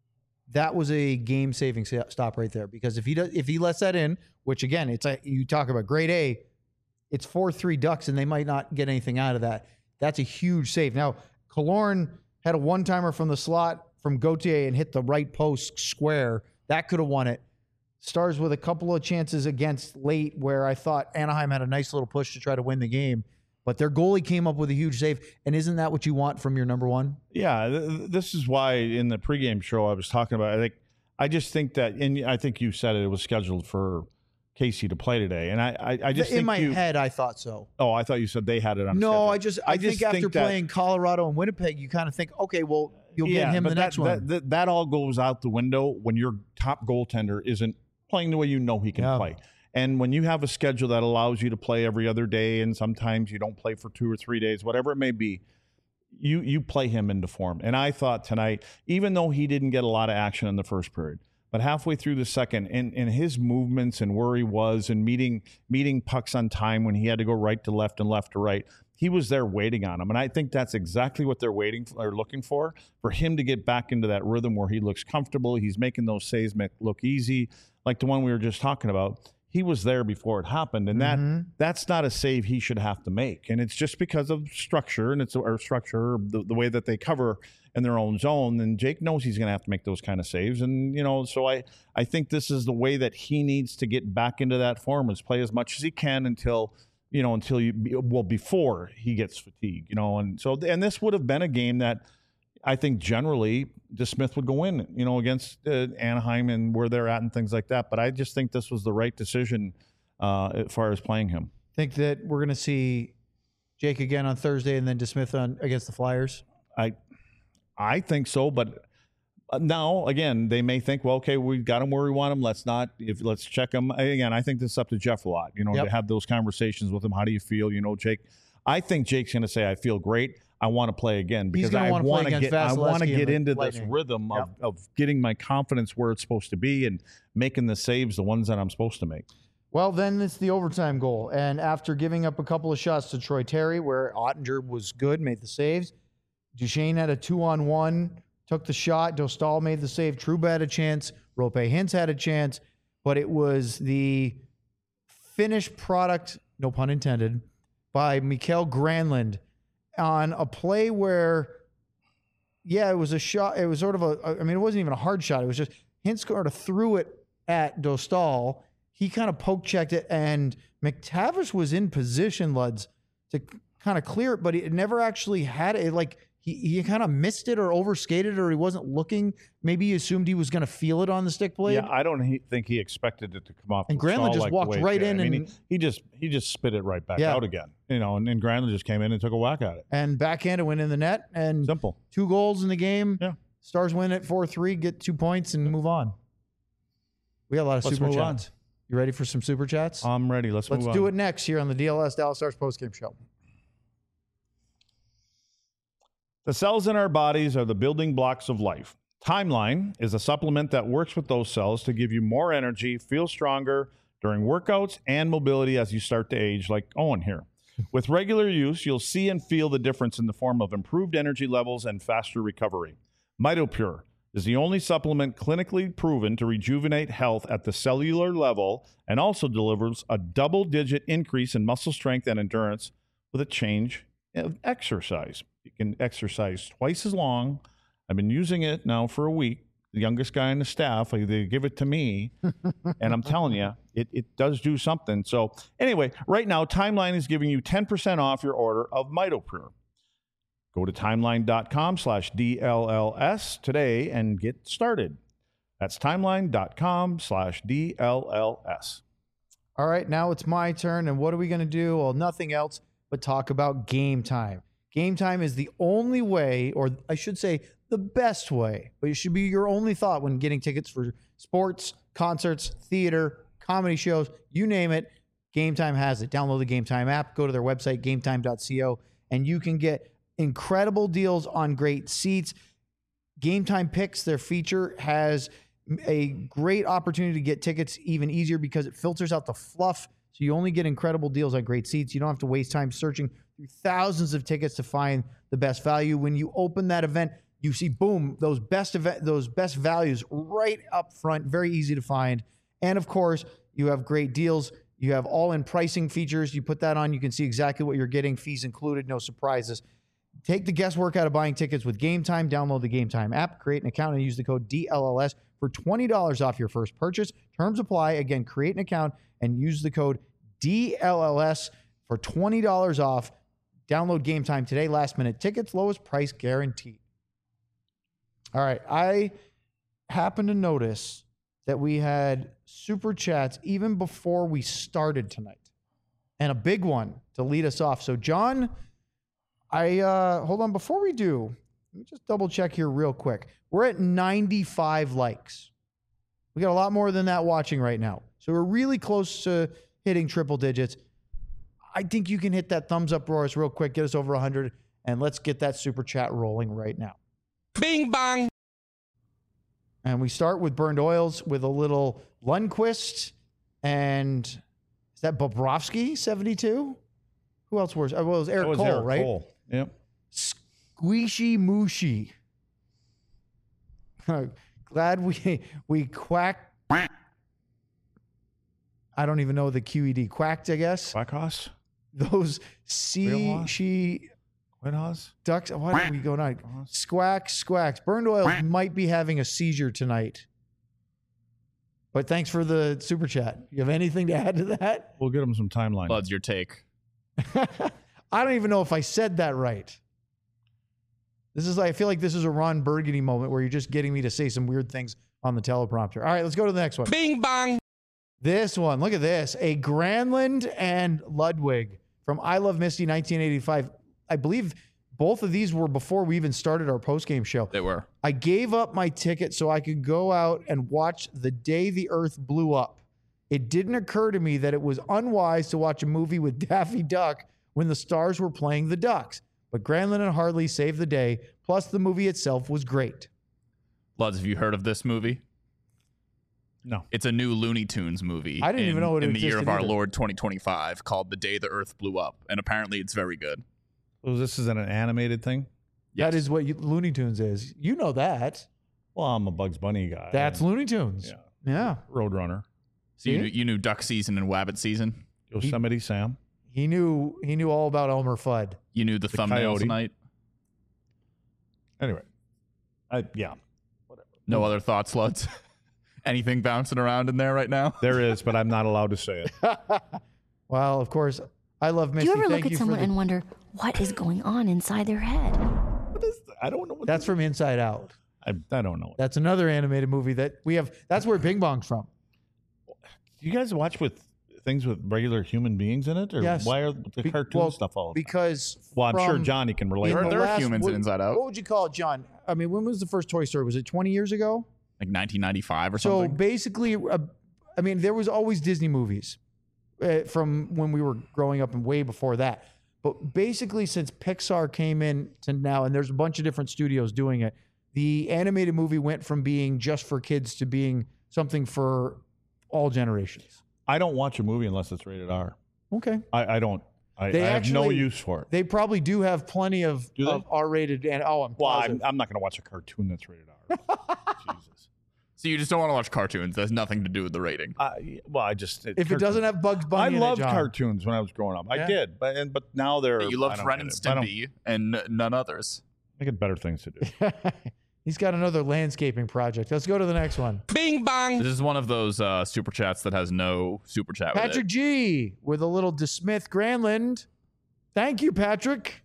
that was a game-saving stop right there. Because if he does, if he lets that in, which again, it's a, you talk about grade A, it's four three Ducks, and they might not get anything out of that. That's a huge save. Now, Killorn had a one-timer from the slot from Gauthier and hit the right post square. That could have won it. Stars with a couple of chances against late where I thought Anaheim had a nice little push to try to win the game. But their goalie came up with a huge save. And isn't that what you want from your number one? Yeah, th- this is why in the pregame show I was talking about, I think, I just think that, and I think you said it, it was scheduled for Casey to play today. And I, I, I just In think my you, head, I thought so. Oh, I thought you said they had it on No, schedule. I just I, I just think after think that- playing Colorado and Winnipeg, you kind of think, okay, well, you'll yeah, get him but the that, next one. That, that, that all goes out the window when your top goaltender isn't playing the way you know he can Yeah. play. And when you have a schedule that allows you to play every other day and sometimes you don't play for two or three days, whatever it may be, you you play him into form. And I thought tonight, even though he didn't get a lot of action in the first period, but halfway through the second, and, and his movements and where he was and meeting meeting pucks on time when he had to go right to left and left to right, he was there waiting on him. And I think that's exactly what they're waiting for, or looking for, for him to get back into that rhythm where he looks comfortable. He's making those saves make look easy, like the one we were just talking about. He was there before it happened, and that Mm-hmm. that's not a save he should have to make. And it's just because of structure, and it's or structure, the, the way that they cover in their own zone. And Jake knows he's going to have to make those kind of saves. And, you know, so I, I think this is the way that he needs to get back into that form, is play as much as he can until, you know, until you, well, before he gets fatigued, you know. And so, and this would have been a game that I think generally DeSmith would go in, you know, against uh, Anaheim and where they're at and things like that. But I just think this was the right decision uh, as far as playing him. Think that we're going to see Jake again on Thursday and then DeSmith on against the Flyers? I, I think so, but now again, they may think, well, okay, we got him where we want him. Let's not, if let's check him again. I think this is up to Jeff a lot, you know, Yep. to have those conversations with him. How do you feel? You know, Jake, I think Jake's going to say, I feel great. I want to play again because gonna I wanna play want to against get, I want to Vasilevsky get and the into this Lightning. rhythm of, Yep. of getting my confidence where it's supposed to be and making the saves, the ones that I'm supposed to make. Well, then it's the overtime goal. And after giving up a couple of shots to Troy Terry, where Ottinger was good, made the saves, Duchene had a two-on-one, took the shot. Dostal made the save. Trouba had a chance. Rope Hintz had a chance. But it was the finished product, no pun intended, by Mikael Granlund on a play where, yeah, it was a shot. It was sort of a, I mean, it wasn't even a hard shot. It was just Hintz sort of threw it at Dostal. He kind of poke checked it, and McTavish was in position, Luds, to kind of clear it, but he never actually had it. Like he, he kind of missed it or overskated, or he wasn't looking. Maybe he assumed he was going to feel it on the stick blade. Yeah, I don't he, think he expected it to come off. And the Granlund stall just like the walked way it right did. in I mean, and- he, he just he just spit it right back Yeah. out again. You know, and, and Granlund just came in and took a whack at it. And backhanded went in the net, and Simple. two goals in the game. Yeah. Stars win at four three, get two points, and move on. We got a lot of Let's super move chats. You ready for some super chats? I'm ready. Let's, Let's move do on. it next here on the D L S Dallas Stars postgame show. The cells in our bodies are the building blocks of life. Timeline is a supplement that works with those cells to give you more energy, feel stronger during workouts and mobility as you start to age, like Owen here. With regular use, you'll see and feel the difference in the form of improved energy levels and faster recovery. MitoPure, is the only supplement clinically proven to rejuvenate health at the cellular level and also delivers a double-digit increase in muscle strength and endurance with a change of exercise. You can exercise twice as long. I've been using it now for a week. The youngest guy on the staff, like, they give it to me, and I'm telling you, it, it does do something. So anyway, right now, Timeline is giving you ten percent off your order of MitoPure. Go to timeline.com slash DLLS today and get started. That's timeline.com slash DLLS. All right, now it's my turn. And what are we going to do? Well, nothing else but talk about Game Time. Game Time is the only way, or I should say the best way, but it should be your only thought when getting tickets for sports, concerts, theater, comedy shows, you name it. Game Time has it. Download the Game Time app, go to their website, game time dot co, and you can get incredible deals on great seats. Game Time Picks, their feature, has a great opportunity to get tickets even easier because it filters out the fluff. So you only get incredible deals on great seats. You don't have to waste time searching through thousands of tickets to find the best value. When you open that event, you see, boom, those best event, those best values right up front, very easy to find. And of course, you have great deals. You have all-in pricing features. You put that on, you can see exactly what you're getting, fees included, no surprises. Take the guesswork out of buying tickets with Game Time. Download the Game Time app, create an account, and use the code D L L S for twenty dollars off your first purchase. Terms apply. Again, create an account and use the code D L L S for twenty dollars off. Download Game Time today. Last minute tickets, lowest price guaranteed. All right. I happened to notice that we had super chats even before we started tonight, and a big one to lead us off. So, John, I uh, hold on. Before we do, let me just double check here real quick. We're at ninety-five likes. We got a lot more than that watching right now. So we're really close to hitting triple digits. I think you can hit that thumbs up for us real quick, get us over one hundred, and let's get that super chat rolling right now. Bing bong. And we start with Burned Oils with a little Lundqvist, and is that Bobrovsky, seventy-two? Who else was? Oh, well, it was Eric That was Cole, Eric right? Cole. Yep. Squishy Mushy. Glad we we quacked. I don't even know the Q E D. Quacked, I guess. Quackhouse? Those sea Wheelhouse? she Quidhouse? ducks. What are we going on? Squack, squacks. Burned Oils might be having a seizure tonight. But thanks for the super chat. You have anything to add to that? We'll get him some timeline. Bud's your take. I don't even know if I said that right. This is like, I feel like this is a Ron Burgundy moment where you're just getting me to say some weird things on the teleprompter. All right, let's go to the next one. Bing bong. This one, look at this. A Granlund and Ludwig from I Love Misty nineteen eighty-five. I believe both of these were before we even started our postgame show. They were. I gave up my ticket so I could go out and watch The Day the Earth Blew Up. It didn't occur to me that it was unwise to watch a movie with Daffy Duck when the stars were playing the Ducks. But Granlund and Harley saved the day. Plus, the movie itself was great. Luds, have you heard of this movie? No. It's a new Looney Tunes movie. I didn't in, even know it in the year of existed our either. Lord twenty twenty-five called The Day the Earth Blew Up, and apparently it's very good. So this is an animated thing? Yes. That is what you, Looney Tunes is. You know that. Well, I'm a Bugs Bunny guy. That's Looney Tunes. Yeah. Yeah. Roadrunner. So you See? knew, you knew duck season and wabbit season. Yosemite Sam. He knew he knew all about Elmer Fudd. You knew the, The thumbnails coyote. tonight. Anyway. I, yeah. No other thoughts, Luds? Anything bouncing around in there right now? There is, but I'm not allowed to say it. Well, of course, I love Do Misty. you ever Thank look you at for someone the- and wonder what is going on inside their head? What is I don't know what That's from Inside Out. I, I don't know. That's another animated movie that we have. That's where Bing Bong's from. Do you guys watch with things with regular human beings in it? Or Yes. why are the Be- cartoon well, stuff all the time? Because Well, I'm sure from- Johnny can relate. in There- the there are last- humans in what- Inside Out. What would you call it, John? I mean, when was the first Toy Story? Was it twenty years ago? Like nineteen ninety-five or So something? basically, uh, I mean, there was always Disney movies uh, from when we were growing up and way before that. But basically, since Pixar came in to now, and there's a bunch of different studios doing it, the animated movie went from being just for kids to being something for all generations. I don't watch a movie unless it's rated R. Okay. I, I don't. I, They I have no actually- use for it. They probably do have plenty of, Do they? of R-rated and oh, I'm Well, positive. I'm, I'm not going to watch a cartoon that's rated R. So you just don't want to watch cartoons. That's nothing to do with the rating. Uh, well, I just If it doesn't have Bugs I Bunny in it, loved John. cartoons when I was growing up. Yeah. I did, but and but now they're You I loved don't Ren get and it. I don't- Stimpy and n- none others. I get better things to do. He's got another landscaping project. Let's go to the next one. This is one of those uh, super chats that has no super chat with Patrick it. G with a little DeSmith Granlund. Thank you, Patrick.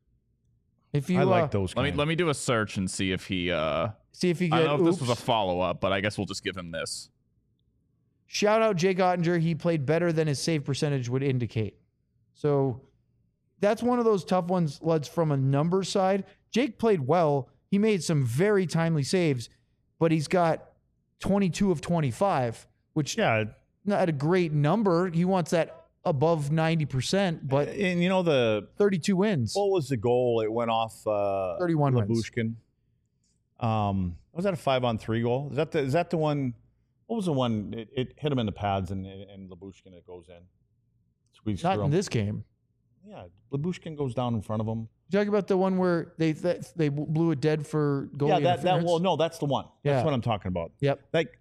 If you I like uh, those. Let me kinds. let me do a search and see if he. Uh, see if you I get. don't know if this oops. was a follow up, but I guess we'll just give him this. Shout out Jake Ottinger. He played better than his save percentage would indicate. So that's one of those tough ones, Luds, from a numbers side. Jake played well. He made some very timely saves, but he's got twenty-two of twenty-five, which Yeah, not a great number. He wants that above ninety percent, but and you know the thirty-two wins. what was the goal? It went off uh, thirty-one wins. Labushkin. Um, was that a five on three goal? Is that the is that the one? What was the one? It, it hit him in the pads and and Labushkin it goes in. Squeeze Not through in him. this game. Yeah, Labushkin goes down in front of him. You talking about the one where they that, they blew it dead for goalie yeah, that that interference? well, no, that's the one. That's Yeah. what I'm talking about. Yep. Like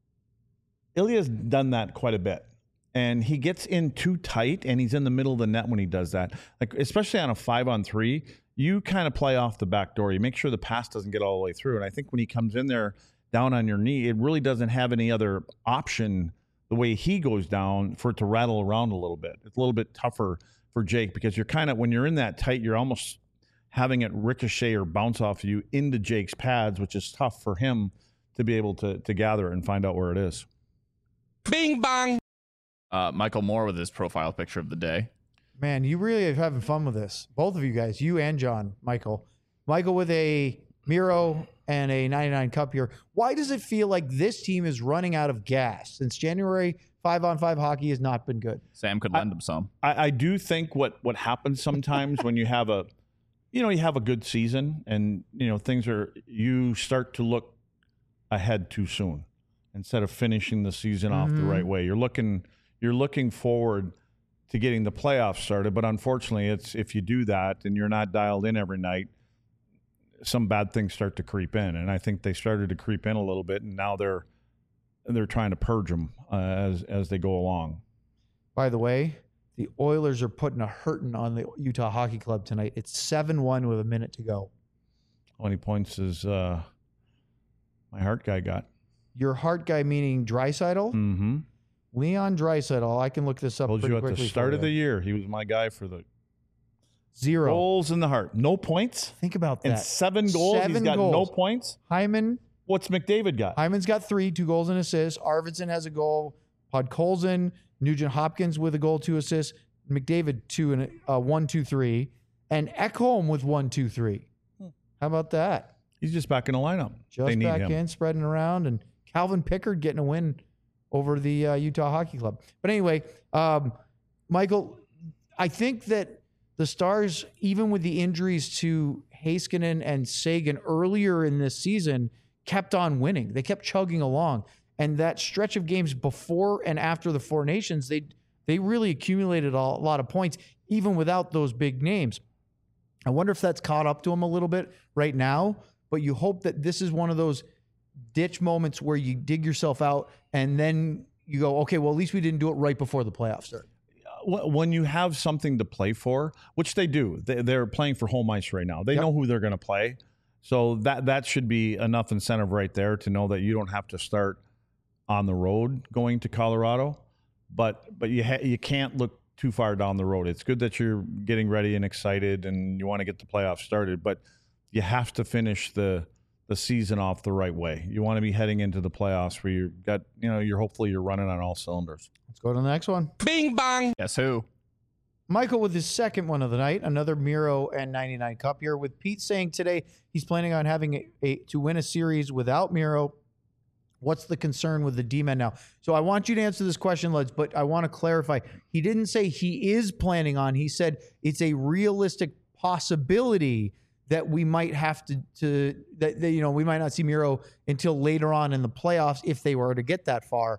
Ilya's done that quite a bit. And he gets in too tight and he's in the middle of the net when he does that. Like, especially on a five on three, you kind of play off the back door. You make sure the pass doesn't get all the way through. And I think when he comes in there down on your knee, it really doesn't have any other option the way he goes down for it to rattle around a little bit. It's a little bit tougher for Jake because you're kind of, when you're in that tight, you're almost having it ricochet or bounce off you into Jake's pads, which is tough for him to be able to, to gather it and find out where it is. Bing bong. Uh, Michael Moore with his profile picture of the day. Man, you really are having fun with this. Both of you guys, you and John, Michael. Michael with a Miro and a ninety-nine Cup here. Why does it feel like this team is running out of gas? Since January, five-on-five hockey has not been good. Sam could lend him some. I, I do think what what happens sometimes when you have a, you know, you have a good season and, you know, things are, you start to look ahead too soon instead of finishing the season off the right way. You're looking, you're looking forward to getting the playoffs started. But unfortunately, it's if you do that and you're not dialed in every night, some bad things start to creep in. And I think they started to creep in a little bit, and now they're they're trying to purge them uh, as as they go along. By the way, the Oilers are putting a hurting on the Utah Hockey Club tonight. It's seven one with a minute to go. How many points is uh, my heart guy got? Your heart guy meaning Draisaitl? Mm-hmm. Leon Draisaitl. I can look this up Told pretty you at quickly the for start of you. the year, he was my guy for the Zero. goals in the heart. No points Think about that. and seven goals. Seven He's got goals. no points. Hyman What's McDavid got? Hyman's got three, two goals and assists. Arvidsson has a goal. Podkolzin, Nugent Hopkins with a goal, two assists. McDavid two and uh, one, two, three, and Ekholm with one, two, three. How about that? He's just back in the lineup. Just they need back him. in, spreading around, and Calvin Pickard getting a win over the uh, Utah Hockey Club. But anyway, um, Michael, I think that the Stars, even with the injuries to Heiskanen and Sagan earlier in this season, kept on winning. They kept chugging along. And that stretch of games before and after the Four Nations, they they really accumulated a lot of points, even without those big names. I wonder if that's caught up to them a little bit right now, but you hope that this is one of those ditch moments where you dig yourself out and then you go, okay, well, at least we didn't do it right before the playoffs start. When you have something to play for, which they do, they- they're playing for home ice right now. They Yep. know who they're going to play. So that that should be enough incentive right there to know that you don't have to start on the road going to Colorado. But but you ha- you can't look too far down the road. It's good that you're getting ready and excited and you want to get the playoffs started, but you have to finish the the season off the right way. You want to be heading into the playoffs where you got, you know, you're hopefully you're running on all cylinders. Let's go to the next one. Bing bong. Guess who? Michael with his second one of the night, another Miro and ninety-nine Cup here, with Pete saying today he's planning on having a, a to win a series without Miro. What's the concern with the D-men now? So I want you to answer this question, Luds, but I want to clarify. He didn't say he is planning on. He said it's a realistic possibility that we might have to, to that, that you know, we might not see Miro until later on in the playoffs if they were to get that far.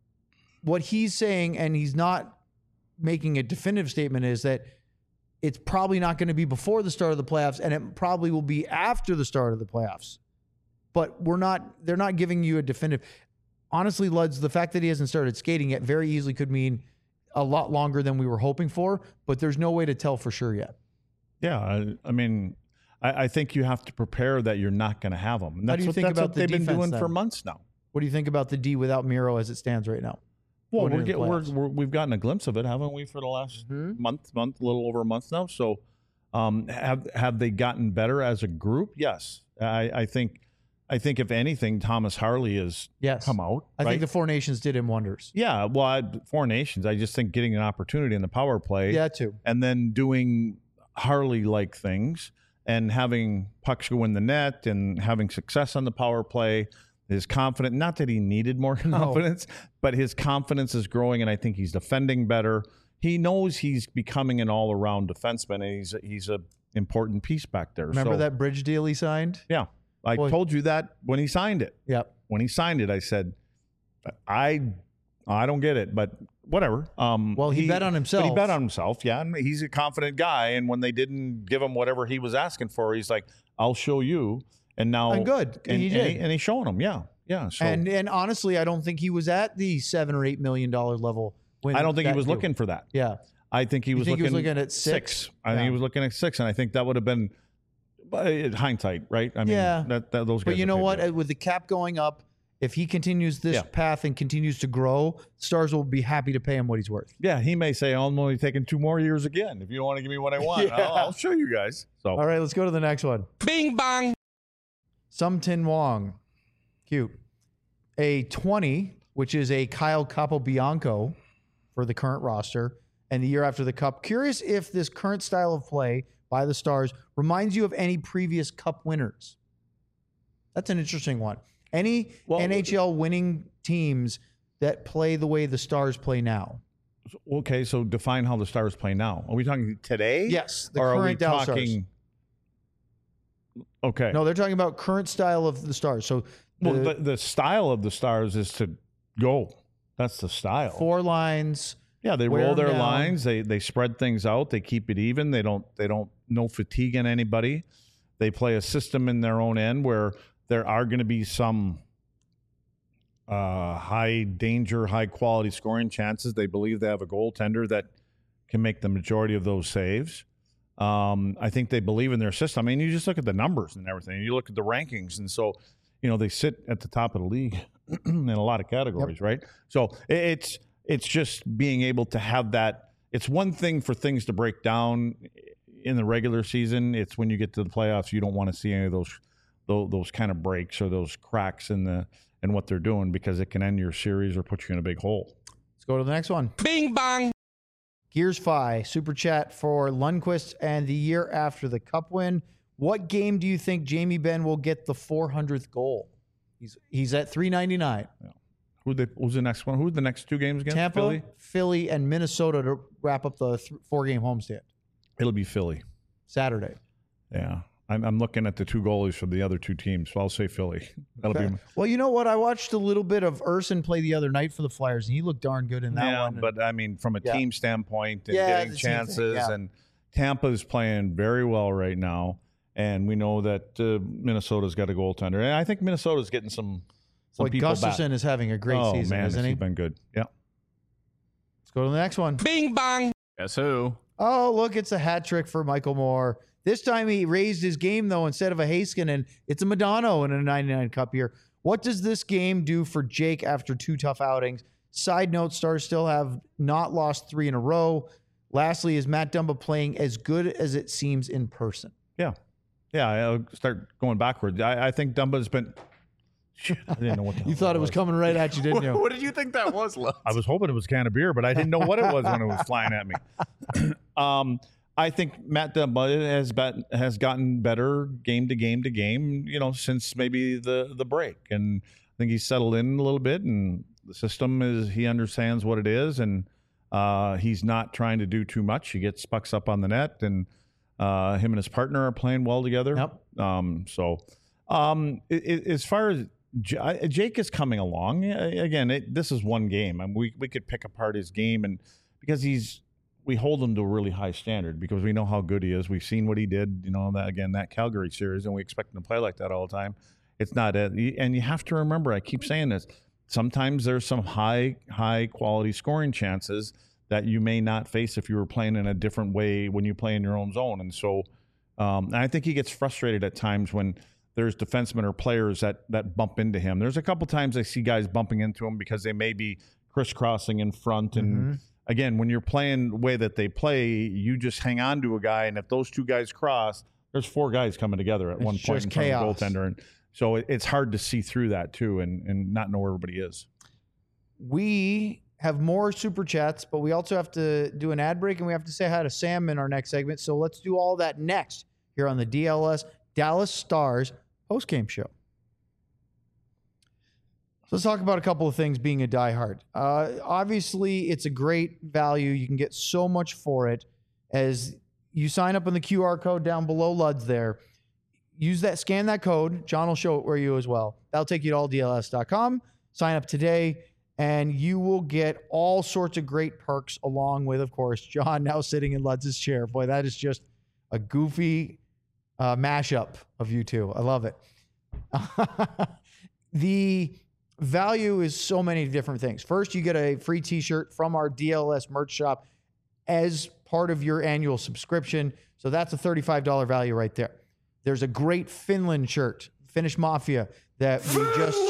What he's saying, and he's not making a definitive statement, is that it's probably not going to be before the start of the playoffs, and it probably will be after the start of the playoffs. but we're not. They're not giving you a definitive. Honestly, Luds, the fact that he hasn't started skating yet very easily could mean a lot longer than we were hoping for. But there's no way to tell for sure yet. Yeah, I, I mean, I, I think you have to prepare that you're not going to have them. And How that's do you what, think that's about what the they've been defense doing then? for months now. What do you think about the D without Miro as it stands right now? Well, Going we're, into get, the we're, playoffs? we're we've gotten a glimpse of it, haven't we, for the last Mhm. month, month, a little over a month now. So, um, have have they gotten better as a group? Yes, I, I think. I think if anything, Thomas Harley has Yes. come out. I right? think the Four Nations did him wonders. yeah. Well, I, Four Nations. I just think getting an opportunity in the power play, Yeah, too. and then doing Harley like things and having pucks go in the net and having success on the power play. His confidence, not that he needed more confidence, but his confidence is growing, and I think he's defending better. He knows he's becoming an all-around defenseman, and he's he's a important piece back there. Remember So, that bridge deal he signed? Yeah, I Boy. told you that when he signed it. Yep. When he signed it, I said, I I don't get it, but whatever. Um, Well, he bet on But himself. he bet on himself, yeah, and he's a confident guy. And when they didn't give him whatever he was asking for, he's like, "I'll show you." And now, And good. and He and did. he, and he's showing them, yeah, yeah. So And and honestly, I don't think he was at the seven or eight million dollar level. When I don't think he that was deal- looking for that. Yeah. I think he You was think he looking. was looking at six? I think Yeah. he was looking at six, and I think that would have been, but in hindsight, right? I mean, Yeah. that, that those. But guys you are know paid what? good. Uh, With the cap going up, if he continues this Yeah. path and continues to grow, Stars will be happy to pay him what he's worth. Yeah, he may say, "I'm only taking two more years again. If you don't want to give me what I want, Yeah. I'll, I'll show you guys." So All right, let's go to the next one. Bing bong. Sum Tin Wong. Cute. A twenty, which is a Kyle Capobianco for the current roster, and the year after the Cup. Curious if this current style of play by the Stars reminds you of any previous Cup winners. That's an interesting one. Any Well, N H L winning teams that play the way the Stars play now? okay, so define how the Stars play now. Are we talking today? Yes, the or are we current Dallas Stars. talking? Okay. No, they're talking about current style of the Stars. So well, the the, the style of the Stars is to go. That's the style. four lines. Yeah, they wear roll them their down. lines. They they spread things out. They keep it even. They don't they don't no fatigue in anybody. They play a system in their own end where there are going to be some uh, high danger, high quality scoring chances. They believe they have a goaltender that can make the majority of those saves. Um, I think they believe in their system. I mean, you just look at the numbers and everything. You look at the rankings, and so you know they sit at the top of the league in a lot of categories, right? So it- it's it's just being able to have that. It's one thing for things to break down in the regular season. It's when you get to the playoffs, you don't want to see any of those those, those kind of breaks or those cracks in the in what they're doing, because it can end your series or put you in a big hole. Let's go to the next one. Bing bong. Gears Fi super chat for Lundqvist and the year after the Cup win. What game do you think Jamie Benn will get the four hundredth goal? He's he's at three ninety-nine. Who they, who's the next one? Who's the next two games again? Tampa, Philly? Philly, and Minnesota to wrap up the th- four game homestand It'll be Philly. Saturday. Yeah. I'm, I'm looking at the two goalies from the other two teams, so I'll say Philly. That'll be Well, you know what? I watched a little bit of Urson play the other night for the Flyers, and he looked darn good in that yeah, one. but I mean, from a Yeah. team standpoint and Yeah, getting the team thing, chances, yeah. and Tampa's playing very well right now, and we know that uh, Minnesota's got a goaltender, and I think Minnesota's getting some some Boy, people Gustafson back. is having a great oh, season, man, isn't has he? been good. Yeah. Let's go to the next one. Bing bong. Guess who? Oh, look, it's a hat trick for Michael Moore. This time he raised his game, though, instead of a Heiskanen. It's a Madonna in a ninety-nine Cup year. What does this game do for Jake after two tough outings? Side note, Stars still have not lost three in a row. Lastly, is Matt Dumba playing as good as it seems in person? Yeah. Yeah, I'll start going backwards. I, I think Dumba's been. Shit, I didn't know what the You hell thought that it was coming right at you, didn't you? What did you think that was, Lutz? I was hoping it was a can of beer, but I didn't know what it was when it was flying at me. um, I think Matt Dumba has been, has gotten better game to game to game, you know, since maybe the the break, and I think he's settled in a little bit, and the system is he understands what it is, and uh, he's not trying to do too much. He gets pucks up on the net, and uh, him and his partner are playing well together. Yep. Um, so, um, it, it, as far as J- I- Jake is coming along. Yeah, again, it, this is one game. I mean, we we could pick apart his game, and because he's we hold him to a really high standard because we know how good he is. We've seen what he did, you know, that again that Calgary series, and we expect him to play like that all the time. it's not it. And you have to remember, I keep saying this, sometimes there's some high, high quality scoring chances that you may not face if you were playing in a different way when you play in your own zone. And so um, and I think he gets frustrated at times when there's defensemen or players that that bump into him. There's a couple times I see guys bumping into him because they may be crisscrossing in front. And Mm-hmm. again, when you're playing the way that they play, you just hang on to a guy. And if those two guys cross, there's four guys coming together at It's one point just in front chaos. of the goaltender. And so it, it's hard to see through that too and, and not know where everybody is. We have more super chats, but we also have to do an ad break and we have to say hi to Sam in our next segment. So let's do all that next here on the D L S Dallas Stars postgame show. So let's talk about a couple of things being a diehard. Uh, obviously, it's a great value. You can get so much for it as you sign up on the Q R code down below L U D's there. Use that, scan that code. John will show it where you as well. That'll take you to all D L S dot com. Sign up today, and you will get all sorts of great perks along with, of course, John now sitting in L U D's chair. Boy, that is just a goofy uh, mashup of you two. I love it. The value is so many different things. First, you get a free t-shirt from our D L S merch shop as part of your annual subscription. So that's a thirty-five dollars value right there. There's a great Finland shirt, Finnish Mafia, that we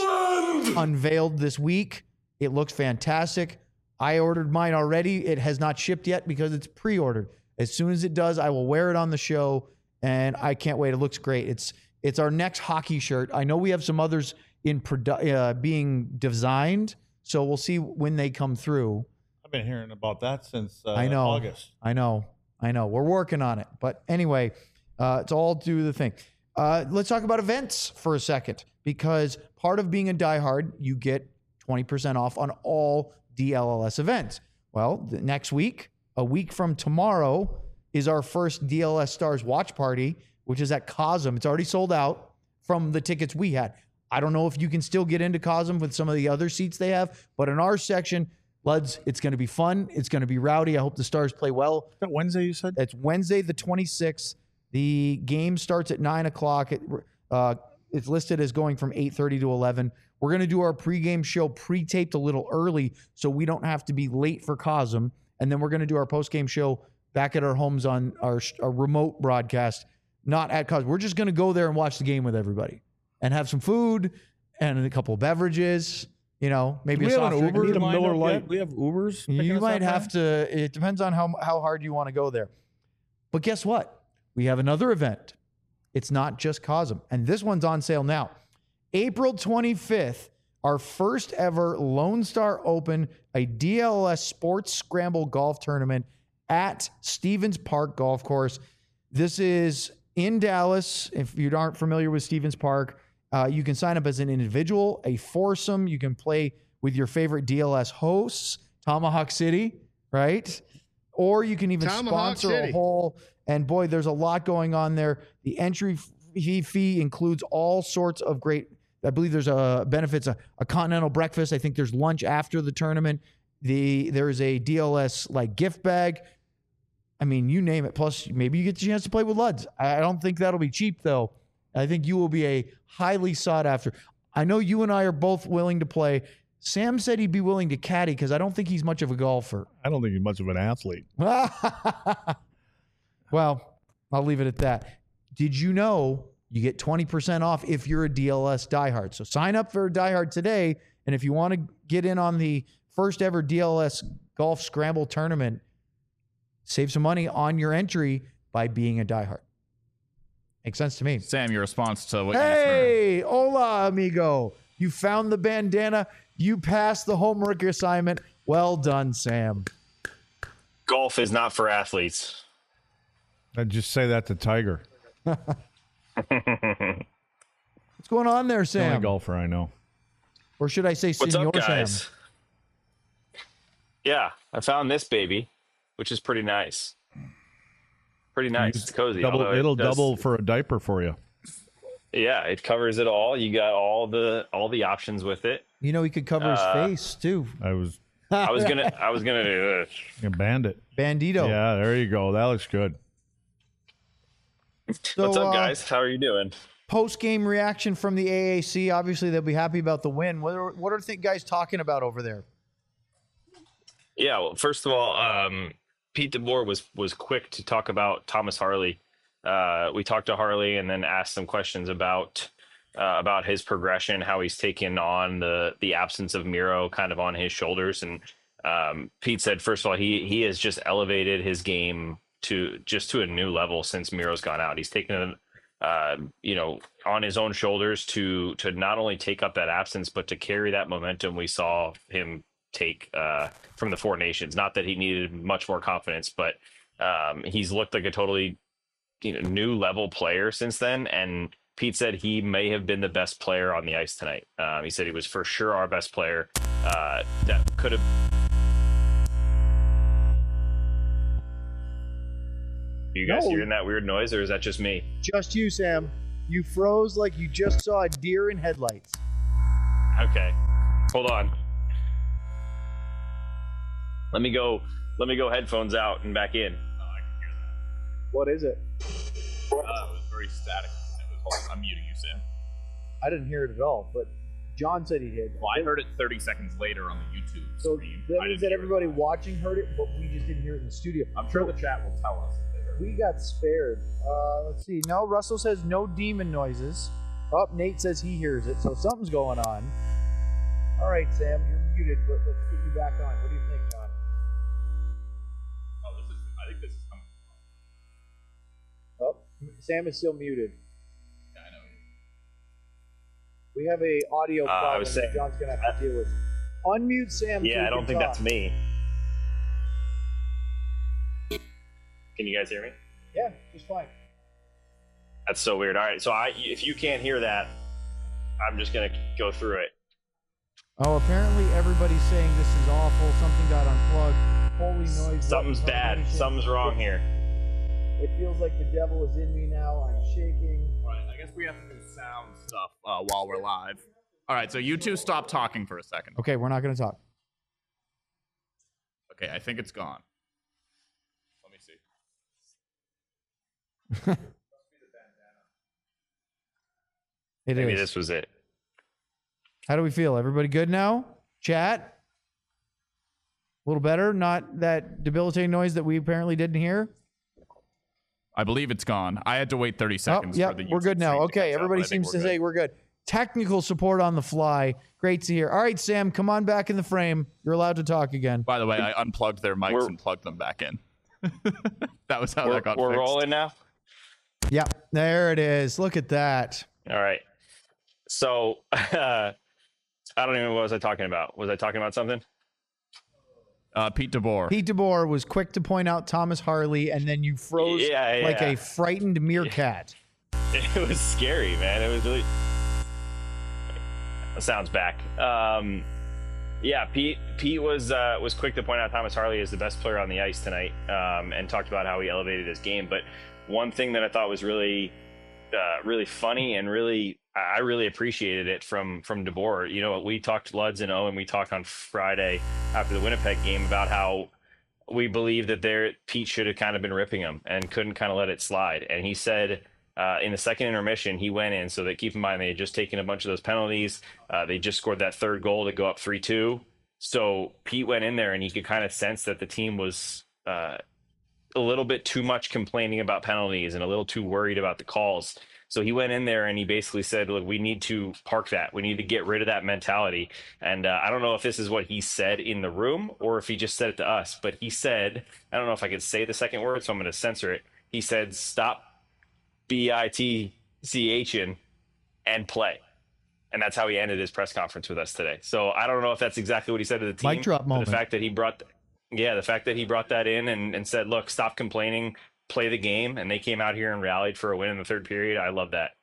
just unveiled this week. It looks fantastic. I ordered mine already. It has not shipped yet because it's pre-ordered. As soon as it does, I will wear it on the show, and I can't wait. It looks great. It's it's our next hockey shirt. I know we have some others in produ- uh, being designed, so we'll see when they come through. I've been hearing about that since uh, I know. August. I know. I know. We're working on it. But anyway, uh, it's all do the thing. Uh, let's talk about events for a second, because part of being a diehard, you get twenty percent off on all D L L S events. Well, the next week, a week from tomorrow, is our first D L S Stars watch party, which is at Cosm. It's already sold out from the tickets we had. I don't know if you can still get into Cosm with some of the other seats they have, but in our section, L U Ds, it's going to be fun. It's going to be rowdy. I hope the Stars play well. Is that Wednesday you said? It's Wednesday the twenty-sixth. The game starts at nine o'clock. It, uh, it's listed as going from eight thirty to eleven. We're going to do our pregame show pre-taped a little early so we don't have to be late for Cosm. And then we're going to do our postgame show back at our homes on our, our remote broadcast, not at Cosm. We're just going to go there and watch the game with everybody and have some food and a couple of beverages. You know, maybe we a have soft an drink. Uber Need a lined Miller up Lite. yet? We have Ubers. picking You us might up have to. It depends on how how hard you want to go there. But guess what? We have another event. It's not just Cosm, and this one's on sale now. April twenty-fifth, our first ever Lone Star Open, a D L S Sports Scramble Golf Tournament at Stevens Park Golf Course. This is in Dallas. If you aren't familiar with Stevens Park, uh, you can sign up as an individual, a foursome. You can play with your favorite D L S hosts, Tomahawk City, right? Or you can even Tomahawk sponsor City. a whole. And boy, there's a lot going on there. The entry fee fee includes all sorts of great. I believe there's a benefits a, a continental breakfast. I think there's lunch after the tournament. The there is a D L S like gift bag. I mean, you name it. Plus, maybe you get the chance to play with L U Ds. I don't think that'll be cheap though. I think you will be a highly sought after. I know you and I are both willing to play. Sam said he'd be willing to caddy because I don't think he's much of a golfer. I don't think he's much of an athlete. Well, I'll leave it at that. Did you know you get twenty percent off if you're a D L S diehard? So sign up for a diehard today. And if you want to get in on the first ever D L S Golf Scramble Tournament, save some money on your entry by being a diehard. Makes sense to me. Sam, your response to what you just heard. Hey, hola, amigo. You found the bandana. You passed the homework assignment. Well done, Sam. Golf is not for athletes. I'd just say that to Tiger. What's going on there, The only Sam? golfer I know. Or should I say What's Senor up, guys? Sam? Yeah, I found this baby, which is pretty nice. Pretty nice. It's cozy. Double, although it it'll does- double for a diaper for you. Yeah, it covers it all. You got all the all the options with it. You know, he could cover Uh, his face too. I was I was gonna I was gonna do this. a bandit. Bandito. Yeah, there you go. That looks good. So, What's up, uh, guys? How are you doing? post-game reaction from the A A C. Obviously, they'll be happy about the win. What are, what are the guys talking about over there? Yeah, well, first of all, um, Pete DeBoer was was quick to talk about Thomas Harley. Uh, we talked to Harley and then asked some questions about uh, about his progression, how he's taken on the the absence of Miro kind of on his shoulders. And um, Pete said, first of all, he he has just elevated his game to just to a new level since Miro's gone out. He's taken it, uh, you know, on his own shoulders to to not only take up that absence, but to carry that momentum we saw him take uh, from the Four Nations. Not that he needed much more confidence, but um, he's looked like a totally you know, new level player since then. And Pete said he may have been the best player on the ice tonight. Um, he said he was for sure our best player. Uh, that could have. You guys No. hearing that weird noise, or is that just me? Just you, Sam. You froze like you just saw a deer in headlights. Okay, hold on. Let me go. Let me go headphones out and back in. What is it? Uh, it was very static. It was, I'm muting you, Sam. I didn't hear it at all, but John said he did. Well, I heard it thirty seconds later on the YouTube So screen. that I means didn't that hear it. everybody watching heard it, but we just didn't hear it in the studio. I'm sure the chat will tell us. if they heard it. We got spared. Uh, let's see. No, Russell says no demon noises. Oh, Nate says he hears it, so something's going on. All right, Sam, you're muted, but let's get you back on. What do you think, John? Oh, this is. I think this is coming. Oh, Sam is still muted. Yeah, I know. We have a audio Uh, I problem was that saying- John's gonna have to deal with. Unmute Sam. so Yeah, he I don't can think talk. that's me. Can you guys hear me? Yeah, just fine. That's so weird. All right, so I, if you can't hear that, I'm just gonna go through it. Oh, apparently everybody's saying this is awful. Something got unplugged. Holy noise. Something's button bad. combination. Something's wrong here. It feels like the devil is in me now. I'm shaking. All right, I guess we have to do sound stuff uh, while we're live. All right, so you two stop talking for a second. Okay, we're not going to talk. Okay, I think it's gone. Let me see. It Maybe is. this was it. How do we feel? Everybody good now? Chat? A little better? Not that debilitating noise that we apparently didn't hear? I believe it's gone. I had to wait thirty Oh, seconds. yeah, for the we're YouTube good now. stream to Okay, catch up, everybody but I think seems to we're say good. we're good. Technical support on the fly. Great to hear. All right, Sam, come on back in the frame. You're allowed to talk again. By the way, I unplugged their mics We're- and plugged them back in. That was how We're, that got we're fixed. rolling now. Yeah, there it is. Look at that. All right. So uh, I don't even know what was I talking about. Was I talking about something? Uh, Pete DeBoer. Pete DeBoer was quick to point out Thomas Harley, and then you froze Yeah, like yeah. a frightened meerkat. It was scary, man. It was really. Sounds back. Um, yeah, Pete. Pete was uh, was quick to point out Thomas Harley is the best player on the ice tonight, um, and talked about how he elevated his game. But one thing that I thought was really, uh, really funny and really, I really appreciated it from from DeBoer. You know, we talked Luds and Owen. We talked on Friday after the Winnipeg game about how we believe that there Pete should have kind of been ripping him and couldn't kind of let it slide. And he said. Uh, in the second intermission, he went in. So that keep in mind they had just taken a bunch of those penalties. Uh, they just scored that third goal to go up three two. So Pete went in there and he could kind of sense that the team was uh, a little bit too much complaining about penalties and a little too worried about the calls. So he went in there and he basically said, look, we need to park that. We need to get rid of that mentality. And uh, I don't know if this is what he said in the room or if he just said it to us, but he said, I don't know if I could say the second word, so I'm going to censor it. He said, stop B I T C H in and play. And that's how he ended his press conference with us today. So I don't know if that's exactly what he said to the team. Mic drop but moment. The fact that he brought, yeah, the fact that he brought that in and, and said, look, stop complaining, play the game. And they came out here and rallied for a win in the third period. I love that.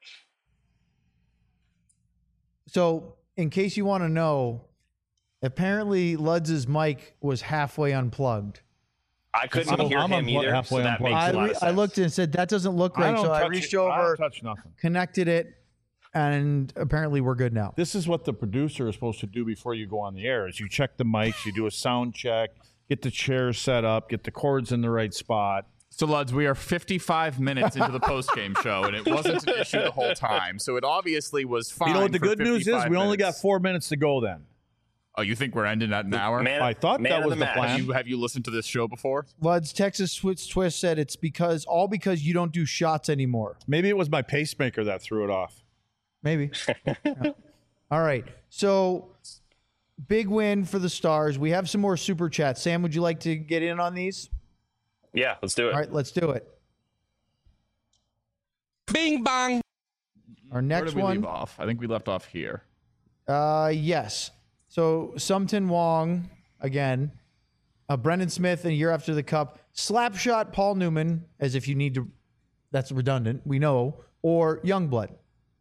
So, in case you want to know, apparently Ludz's mic was halfway unplugged. I couldn't I'm- hear I'm him unplu- either. halfway So that unplugged. makes I, a lot re- of sense. I looked and said, that doesn't look I right. don't So I touch reached it. I over, don't touch nothing. connected it, and apparently we're good now. This is what the producer is supposed to do before you go on the air: is you check the mics, you do a sound check, get the chairs set up, get the cords in the right spot. So, Luds, we are fifty-five minutes into the post-game show, and it wasn't an issue the whole time. So it obviously was fine. You know what the for good news is? fifty-five We only got minutes. four minutes to go then. Oh, you think we're ending at an hour? Man, I thought man that of was the the match. plan. Have you, have you listened to this show before? Luds, Texas Twist Twist said it's because all because you don't do shots anymore. Maybe it was my pacemaker that threw it off. Maybe. Yeah. All right. So big win for the Stars. We have some more super chats. Sam, would you like to get in on these? Yeah, let's do it. All right, let's do it. Bing bong. Our Where next did we one. leave off? I think we left off here. Uh, yes. So Sumton Wong again, uh, Brendan Smith, and a year after the cup, Slapshot Paul Newman, as if you need to. That's redundant. We know, or Youngblood.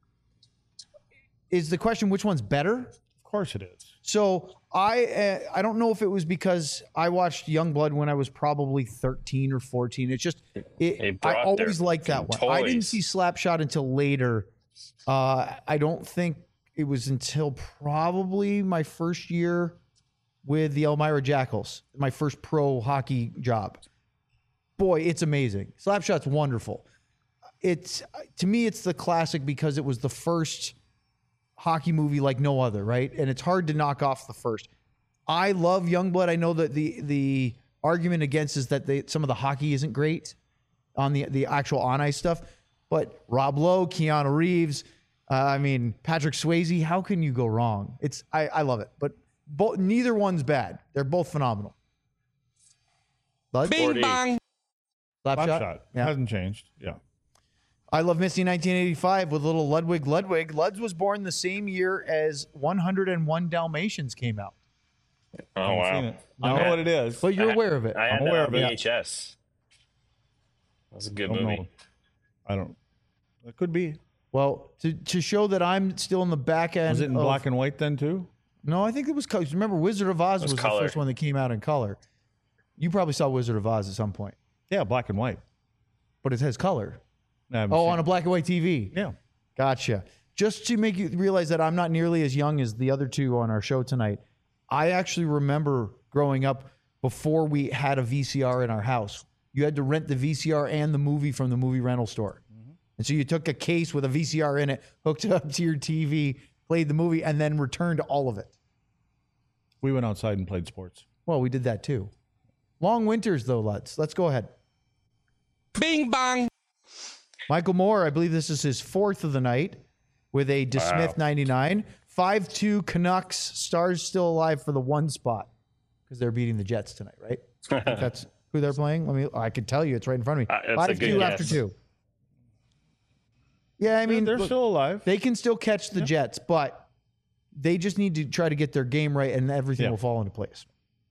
Is the question which one's better? Of course it is. So I uh, I don't know if it was because I watched Youngblood when I was probably thirteen or fourteen. It's just it, They I brought always their liked that one. I didn't toys. see Slapshot until later. Uh, I don't think it was until probably my first year with the Elmira Jackals, my first pro hockey job. Boy, it's amazing. Slapshot's wonderful. It's to me, it's the classic because it was the first hockey movie like no other, right? And it's hard to knock off the first. I love Youngblood. I know that the the argument against is that they, some of the hockey isn't great on the the actual on ice stuff, but Rob Lowe, Keanu Reeves, uh, I mean Patrick Swayze. How can you go wrong? It's I, I love it, but both neither one's bad. They're both phenomenal. Bud? Bing Slapshot? Slapshot. Yeah. Hasn't changed. Yeah. I Love Misty nineteen eighty-five with little Ludwig Ludwig. Luds was born the same year as one hundred one Dalmatians came out. Oh, Haven't wow. seen it. I know what it is. But you're I- aware of it. I had I'm that aware on of it. V H S. That was a good Don't movie. know. I don't. It could be. Well, to, to show that I'm still in the back end. Was it in of- black and white then too? No, I think it was color. Remember, Wizard of Oz was was, color. the first one that came out in color. You probably saw Wizard of Oz at some point, Yeah, black and white. but it has color. I haven't Oh, seen on a it. black and white T V. Yeah. Gotcha. Just to make you realize that I'm not nearly as young as the other two on our show tonight, I actually remember growing up before we had a V C R in our house. You had to rent the V C R and the movie from the movie rental store. And so you took a case with a V C R in it, hooked it up to your T V, played the movie, and then returned all of it. We went outside and played sports. Well, we did that too. Long winters, though, let's. Let's go ahead. Bing bong. Michael Moore, I believe this is his fourth of the night with a DeSmith ninety-nine. five two Canucks. Stars still alive for the one spot because they're beating the Jets tonight, right? I think that's who they're playing. Let me. I can tell you, it's right in front of me. Uh, that's a five two good after guess. two. Yeah, I mean, they're look, still alive. they can still catch the Jets, but they just need to try to get their game right, and everything Yeah. will fall into place.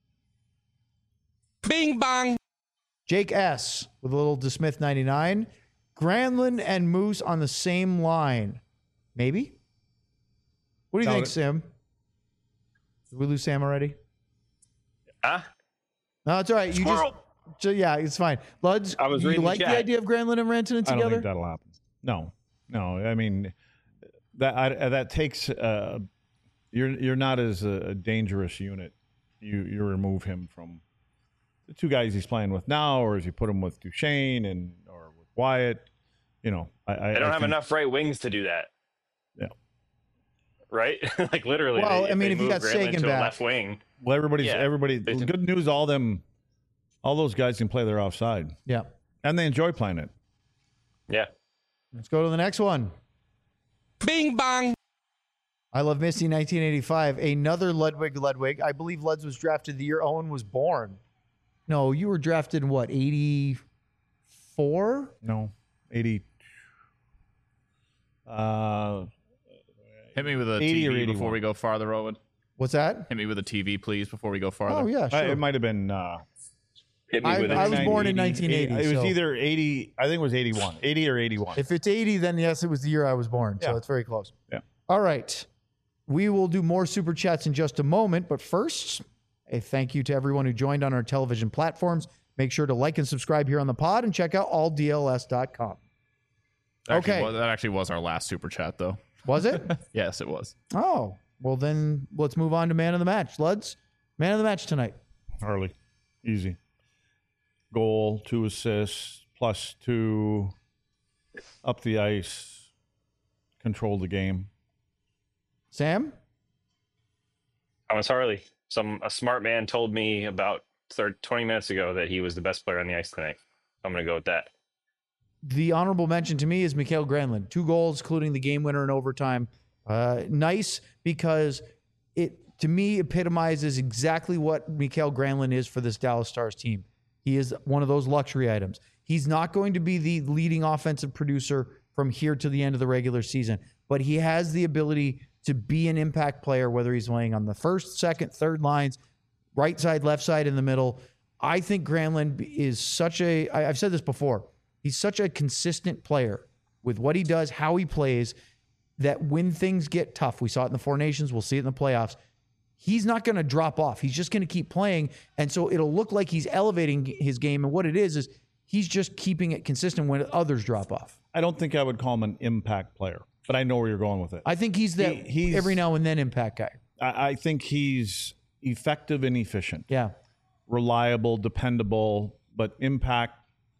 Bing bong. Jake S. with a little DeSmith ninety-nine. Granlund and Moose on the same line. Maybe? What do you Doubt think, it. Sam? Did we lose Sam already? Huh? No, it's all right. You Squirrel. just, so, yeah, it's fine. Luds, I was you reading the like the chat. idea of Granlund and Rantanen I don't together? think that'll happen. No, no. I mean, that I, that takes. Uh, you're you're not as a, a dangerous unit. You you remove him from the two guys he's playing with now, or as you put him with Duchesne and or with Wyatt. You know, I, I They don't I have think- enough right wings to do that. Yeah. Right? Like literally. Well, they, I mean, they if you move got Granlund Sagan to back- a left wing. Well, everybody's Yeah, everybody. they can- Good news. All them, all those guys can play their offside, Yeah. and they enjoy playing it. Yeah. Let's go to the next one. Bing bong. I Love Misty nineteen eighty-five. Another Ludwig Ludwig. I believe Luds was drafted the year Owen was born. No, you were drafted in what, eighty-four? No, eighty. Uh, Hit me with a eighty T or V eighty-one. before we go farther, Owen. What's that? Hit me with a T V, please, before we go farther. Oh, yeah, I- sure. it might have been. Uh, Hit me I- with I it. was born in nineteen eighty, It was so- either eighty. I think it was eighty-one. eighty or eighty-one. If it's eighty, then yes, it was the year I was born. So Yeah. it's very close. Yeah. All right. We will do more super chats in just a moment. But first, a thank you to everyone who joined on our television platforms. Make sure to like and subscribe here on the pod and check out all D L S dot com. Actually, Okay. well, that actually was our last super chat, though. Was it? Yes, it was. Oh, well, then let's move on to man of the match. Luds, man of the match tonight. Harley, easy. goal, two assists, plus two up the ice, controlled the game. Sam? Thomas Harley. Some a smart man told me about thirty, twenty minutes ago that he was the best player on the ice tonight. I'm going to go with that. The honorable mention to me is Mikael Granlund. Two goals, including the game winner in overtime. Uh, nice because it, to me, epitomizes exactly what Mikael Granlund is for this Dallas Stars team. He is one of those luxury items. He's not going to be the leading offensive producer from here to the end of the regular season, but he has the ability to be an impact player, whether he's playing on the first, second, third lines, right side, left side, in the middle. I think Granlund is such a, I, I've said this before, he's such a consistent player with what he does, how he plays, that when things get tough, we saw it in the Four Nations, we'll see it in the playoffs, he's not going to drop off. He's just going to keep playing. And so it'll look like he's elevating his game. And what it is, is he's just keeping it consistent when others drop off. I don't think I would call him an impact player, but I know where you're going with it. I think he's that He- he's- every now and then impact guy. I, I think he's effective and efficient, Yeah. reliable, dependable, but impact.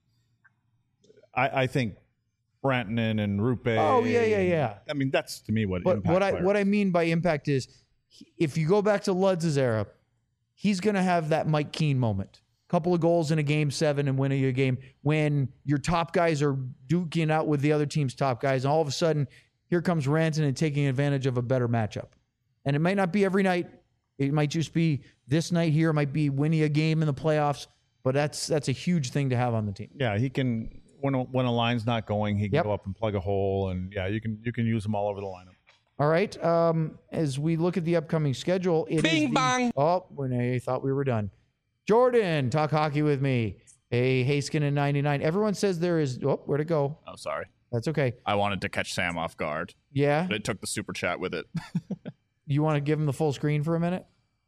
I, I think Brantanen and Rupe. Oh, yeah, yeah, yeah. I mean, that's to me what But impact what I player what I is. mean by impact is, he- if you go back to Ludz's era, he's going to have that Mike Keane moment. Couple of goals in a game seven and winning a game when your top guys are duking out with the other team's top guys, and all of a sudden, here comes Rantanen taking advantage of a better matchup. And it might not be every night. It might just be this night here. It might be winning a game in the playoffs. But that's that's a huge thing to have on the team. Yeah, he can when a, when a line's not going, he can Yep. go up and plug a hole, and yeah, you can you can use him all over the lineup. All right. Um, as we look at the upcoming schedule, it Bing is the, bang. Oh, when I thought we were done. Jordan, talk hockey with me. A Haskin in ninety-nine. Everyone says there is. Oh, where'd it go? Oh, sorry. That's okay. I wanted to catch Sam off guard, Yeah. but it took the super chat with it. You want to give him the full screen for a minute?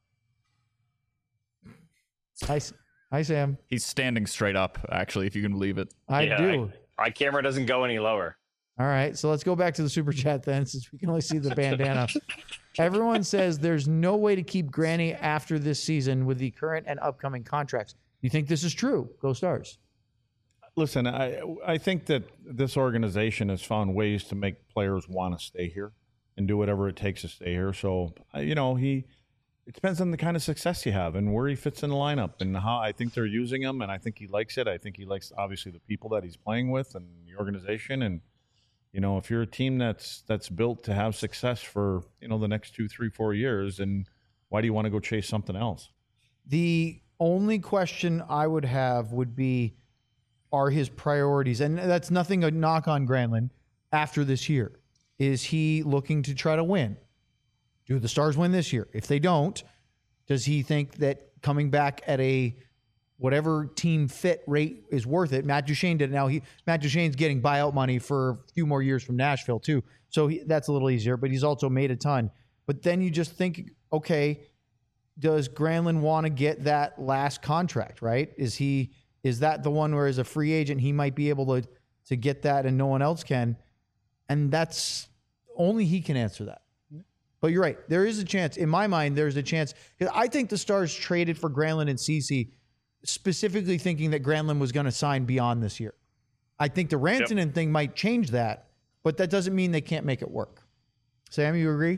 Hi, S- hi, Sam. He's standing straight up, actually, if you can believe it. I Yeah, do. My camera doesn't go any lower. All right, so let's go back to the super chat then, since we can only see the bandana. Everyone says there's no way to keep Granny after this season with the current and upcoming contracts. You think this is true? Go Stars. Listen, I I think that this organization has found ways to make players want to stay here and do whatever it takes to stay here. So, uh, you know, he it depends on the kind of success you have and where he fits in the lineup and how I think they're using him, and I think he likes it. I think he likes obviously the people that he's playing with and the organization. And you know, if you're a team that's that's built to have success for you know the next two, three, four years, then why do you want to go chase something else? The only question I would have would be, are his priorities, and that's nothing a knock on Granlund, after this year. Is he looking to try to win? Do the Stars win this year? If they don't, does he think that coming back at a whatever team fit rate is worth it? Matt Duchene did it. Now he Matt Duchene's getting buyout money for a few more years from Nashville too, so he, that's a little easier. But he's also made a ton. But then you just think, okay, does Granlund want to get that last contract? Right? Is he is that the one where as a free agent he might be able to to get that and no one else can? And that's only he can answer that. But you're right. There is a chance. In my mind, there's a chance. Because I think the Stars traded for Granlund and Ceci specifically thinking that Granlund was going to sign beyond this year. I think the Rantanen yep. thing might change that, but that doesn't mean they can't make it work. Sam, you agree?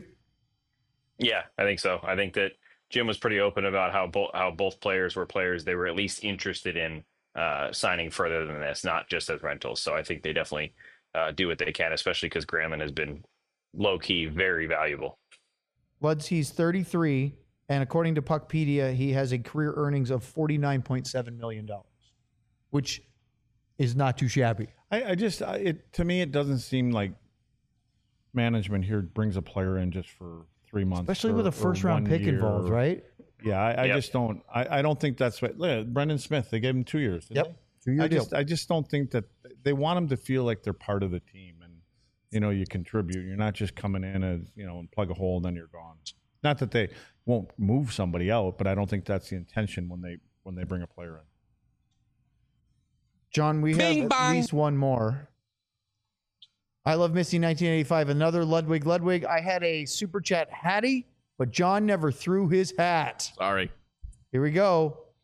Yeah, I think so. I think that Jim was pretty open about how both how both players were players they were at least interested in uh, signing further than this, not just as rentals. So I think they definitely uh, do what they can, especially because Granlund has been low key very valuable. Luds, he's thirty-three, and according to Puckpedia, he has a career earnings of forty-nine point seven million dollars, which is not too shabby. I, I just, I, it to me, it doesn't seem like management here brings a player in just for three months, especially or, with a first-round pick year. involved, right? Yeah, I, I yep. just don't. I, I don't think that's what. Look at Brendan Smith. They gave him two years. Didn't Yep, they? two-year I deal. just, I just don't think that they want them to feel like they're part of the team, and you know, you contribute. You're not just coming in as you know and plug a hole and then you're gone. Not that they won't move somebody out, but I don't think that's the intention when they when they bring a player in. John, we Bing have bong. at least one more. I love Missy nineteen eighty-five. Another Ludwig Ludwig. I had a super chat Hattie, but John never threw his hat. Sorry. Here we go.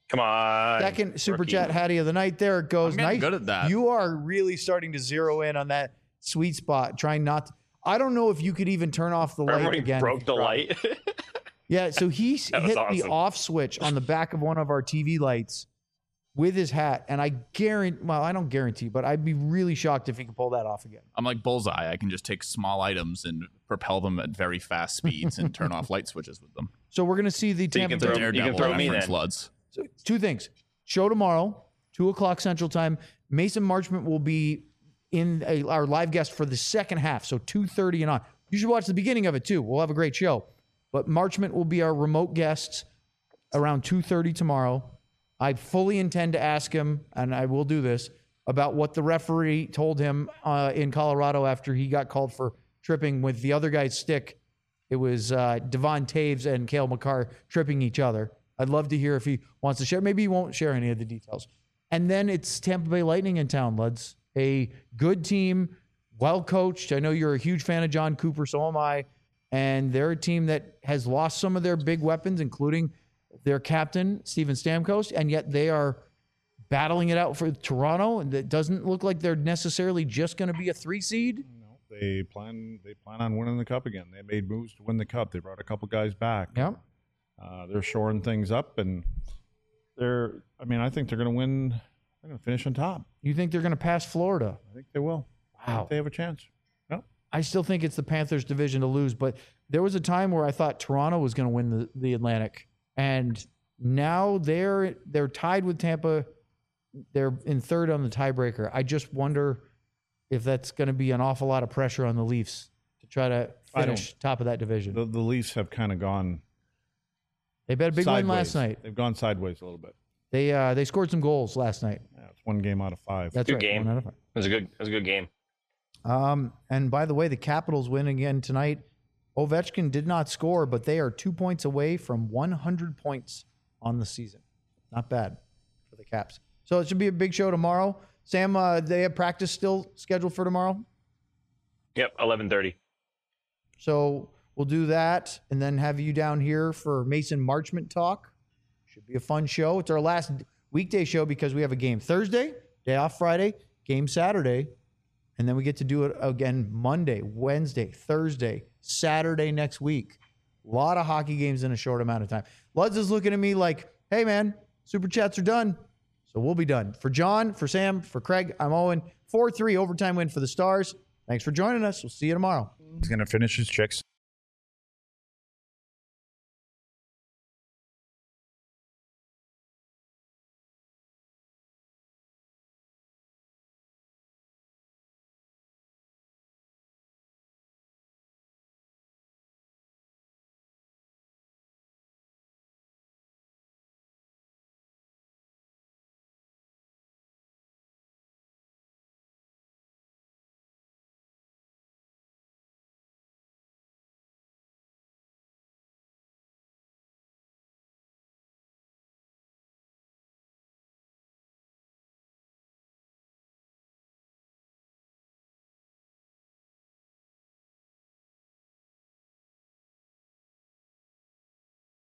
Come on. Second super rookie. chat Hattie of the night. There it goes. I'm getting Nice. good at that. You are really starting to zero in on that sweet spot. Trying not to, I don't know if you could even turn off the light Remember when he again. if broke you the tried. light? Yeah, so he s- That was hit the awesome. off switch on the back of one of our T V lights with his hat, and I guarantee, well, I don't guarantee, but I'd be really shocked if he could pull that off again. I'm like Bullseye. I can just take small items and propel them at very fast speeds and turn off light switches with them. So we're going to see the So you Tampa can The Bay. throw- you Daredevil throw me reference, then. Luds. So two things. Show tomorrow, two o'clock Central Time. Mason Marchment will be in a, our live guest for the second half, so two thirty and on. You should watch the beginning of it too. We'll have a great show. But Marchment will be our remote guest around two thirty tomorrow. I fully intend to ask him, and I will do this, about what the referee told him uh, in Colorado after he got called for tripping with the other guy's stick. It was uh, Devon Taves and Cale McCarr tripping each other. I'd love to hear if he wants to share. Maybe he won't share any of the details. And then it's Tampa Bay Lightning in town, Luds. A good team, well coached. I know you're a huge fan of John Cooper, so am I. And they're a team that has lost some of their big weapons, including their captain, Steven Stamkos, and yet they are battling it out for Toronto. And it doesn't look like they're necessarily just going to be a three seed. No, they plan they plan on winning the cup again. They made moves to win the cup. They brought a couple guys back. Yeah. Uh, they're shoring things up, and they're. I mean, I think they're going to win. They're going to finish on top. You think they're going to pass Florida? I think they will. I Wow. think they have a chance. No. I still think it's the Panthers' division to lose, but there was a time where I thought Toronto was going to win the, the Atlantic, and now they're they're tied with Tampa. They're in third on the tiebreaker. I just wonder if that's going to be an awful lot of pressure on the Leafs to try to I finish top of that division. The, the Leafs have kind of gone They bet a big sideways. win last night. They've gone sideways a little bit. They uh, they scored some goals last night. Yeah, it's one game out of five. That's Good right. game. one out of five. It was a good. It was a good game. Um, and by the way, the Capitals win again tonight. Ovechkin did not score, but they are two points away from one hundred points on the season. Not bad for the Caps. So it should be a big show tomorrow. Sam, uh, they have practice still scheduled for tomorrow. Yep, eleven thirty. So we'll do that and then have you down here for Mason Marchment talk. Should be a fun show. It's our last weekday show because we have a game Thursday, day off Friday, game Saturday, and then we get to do it again Monday, Wednesday, Thursday, Saturday next week. A lot of hockey games in a short amount of time. Luds is looking at me like, hey, man, super chats are done. So we'll be done. For John, for Sam, for Craig, I'm Owen. four three overtime win for the Stars. Thanks for joining us. We'll see you tomorrow. He's going to finish his chicks.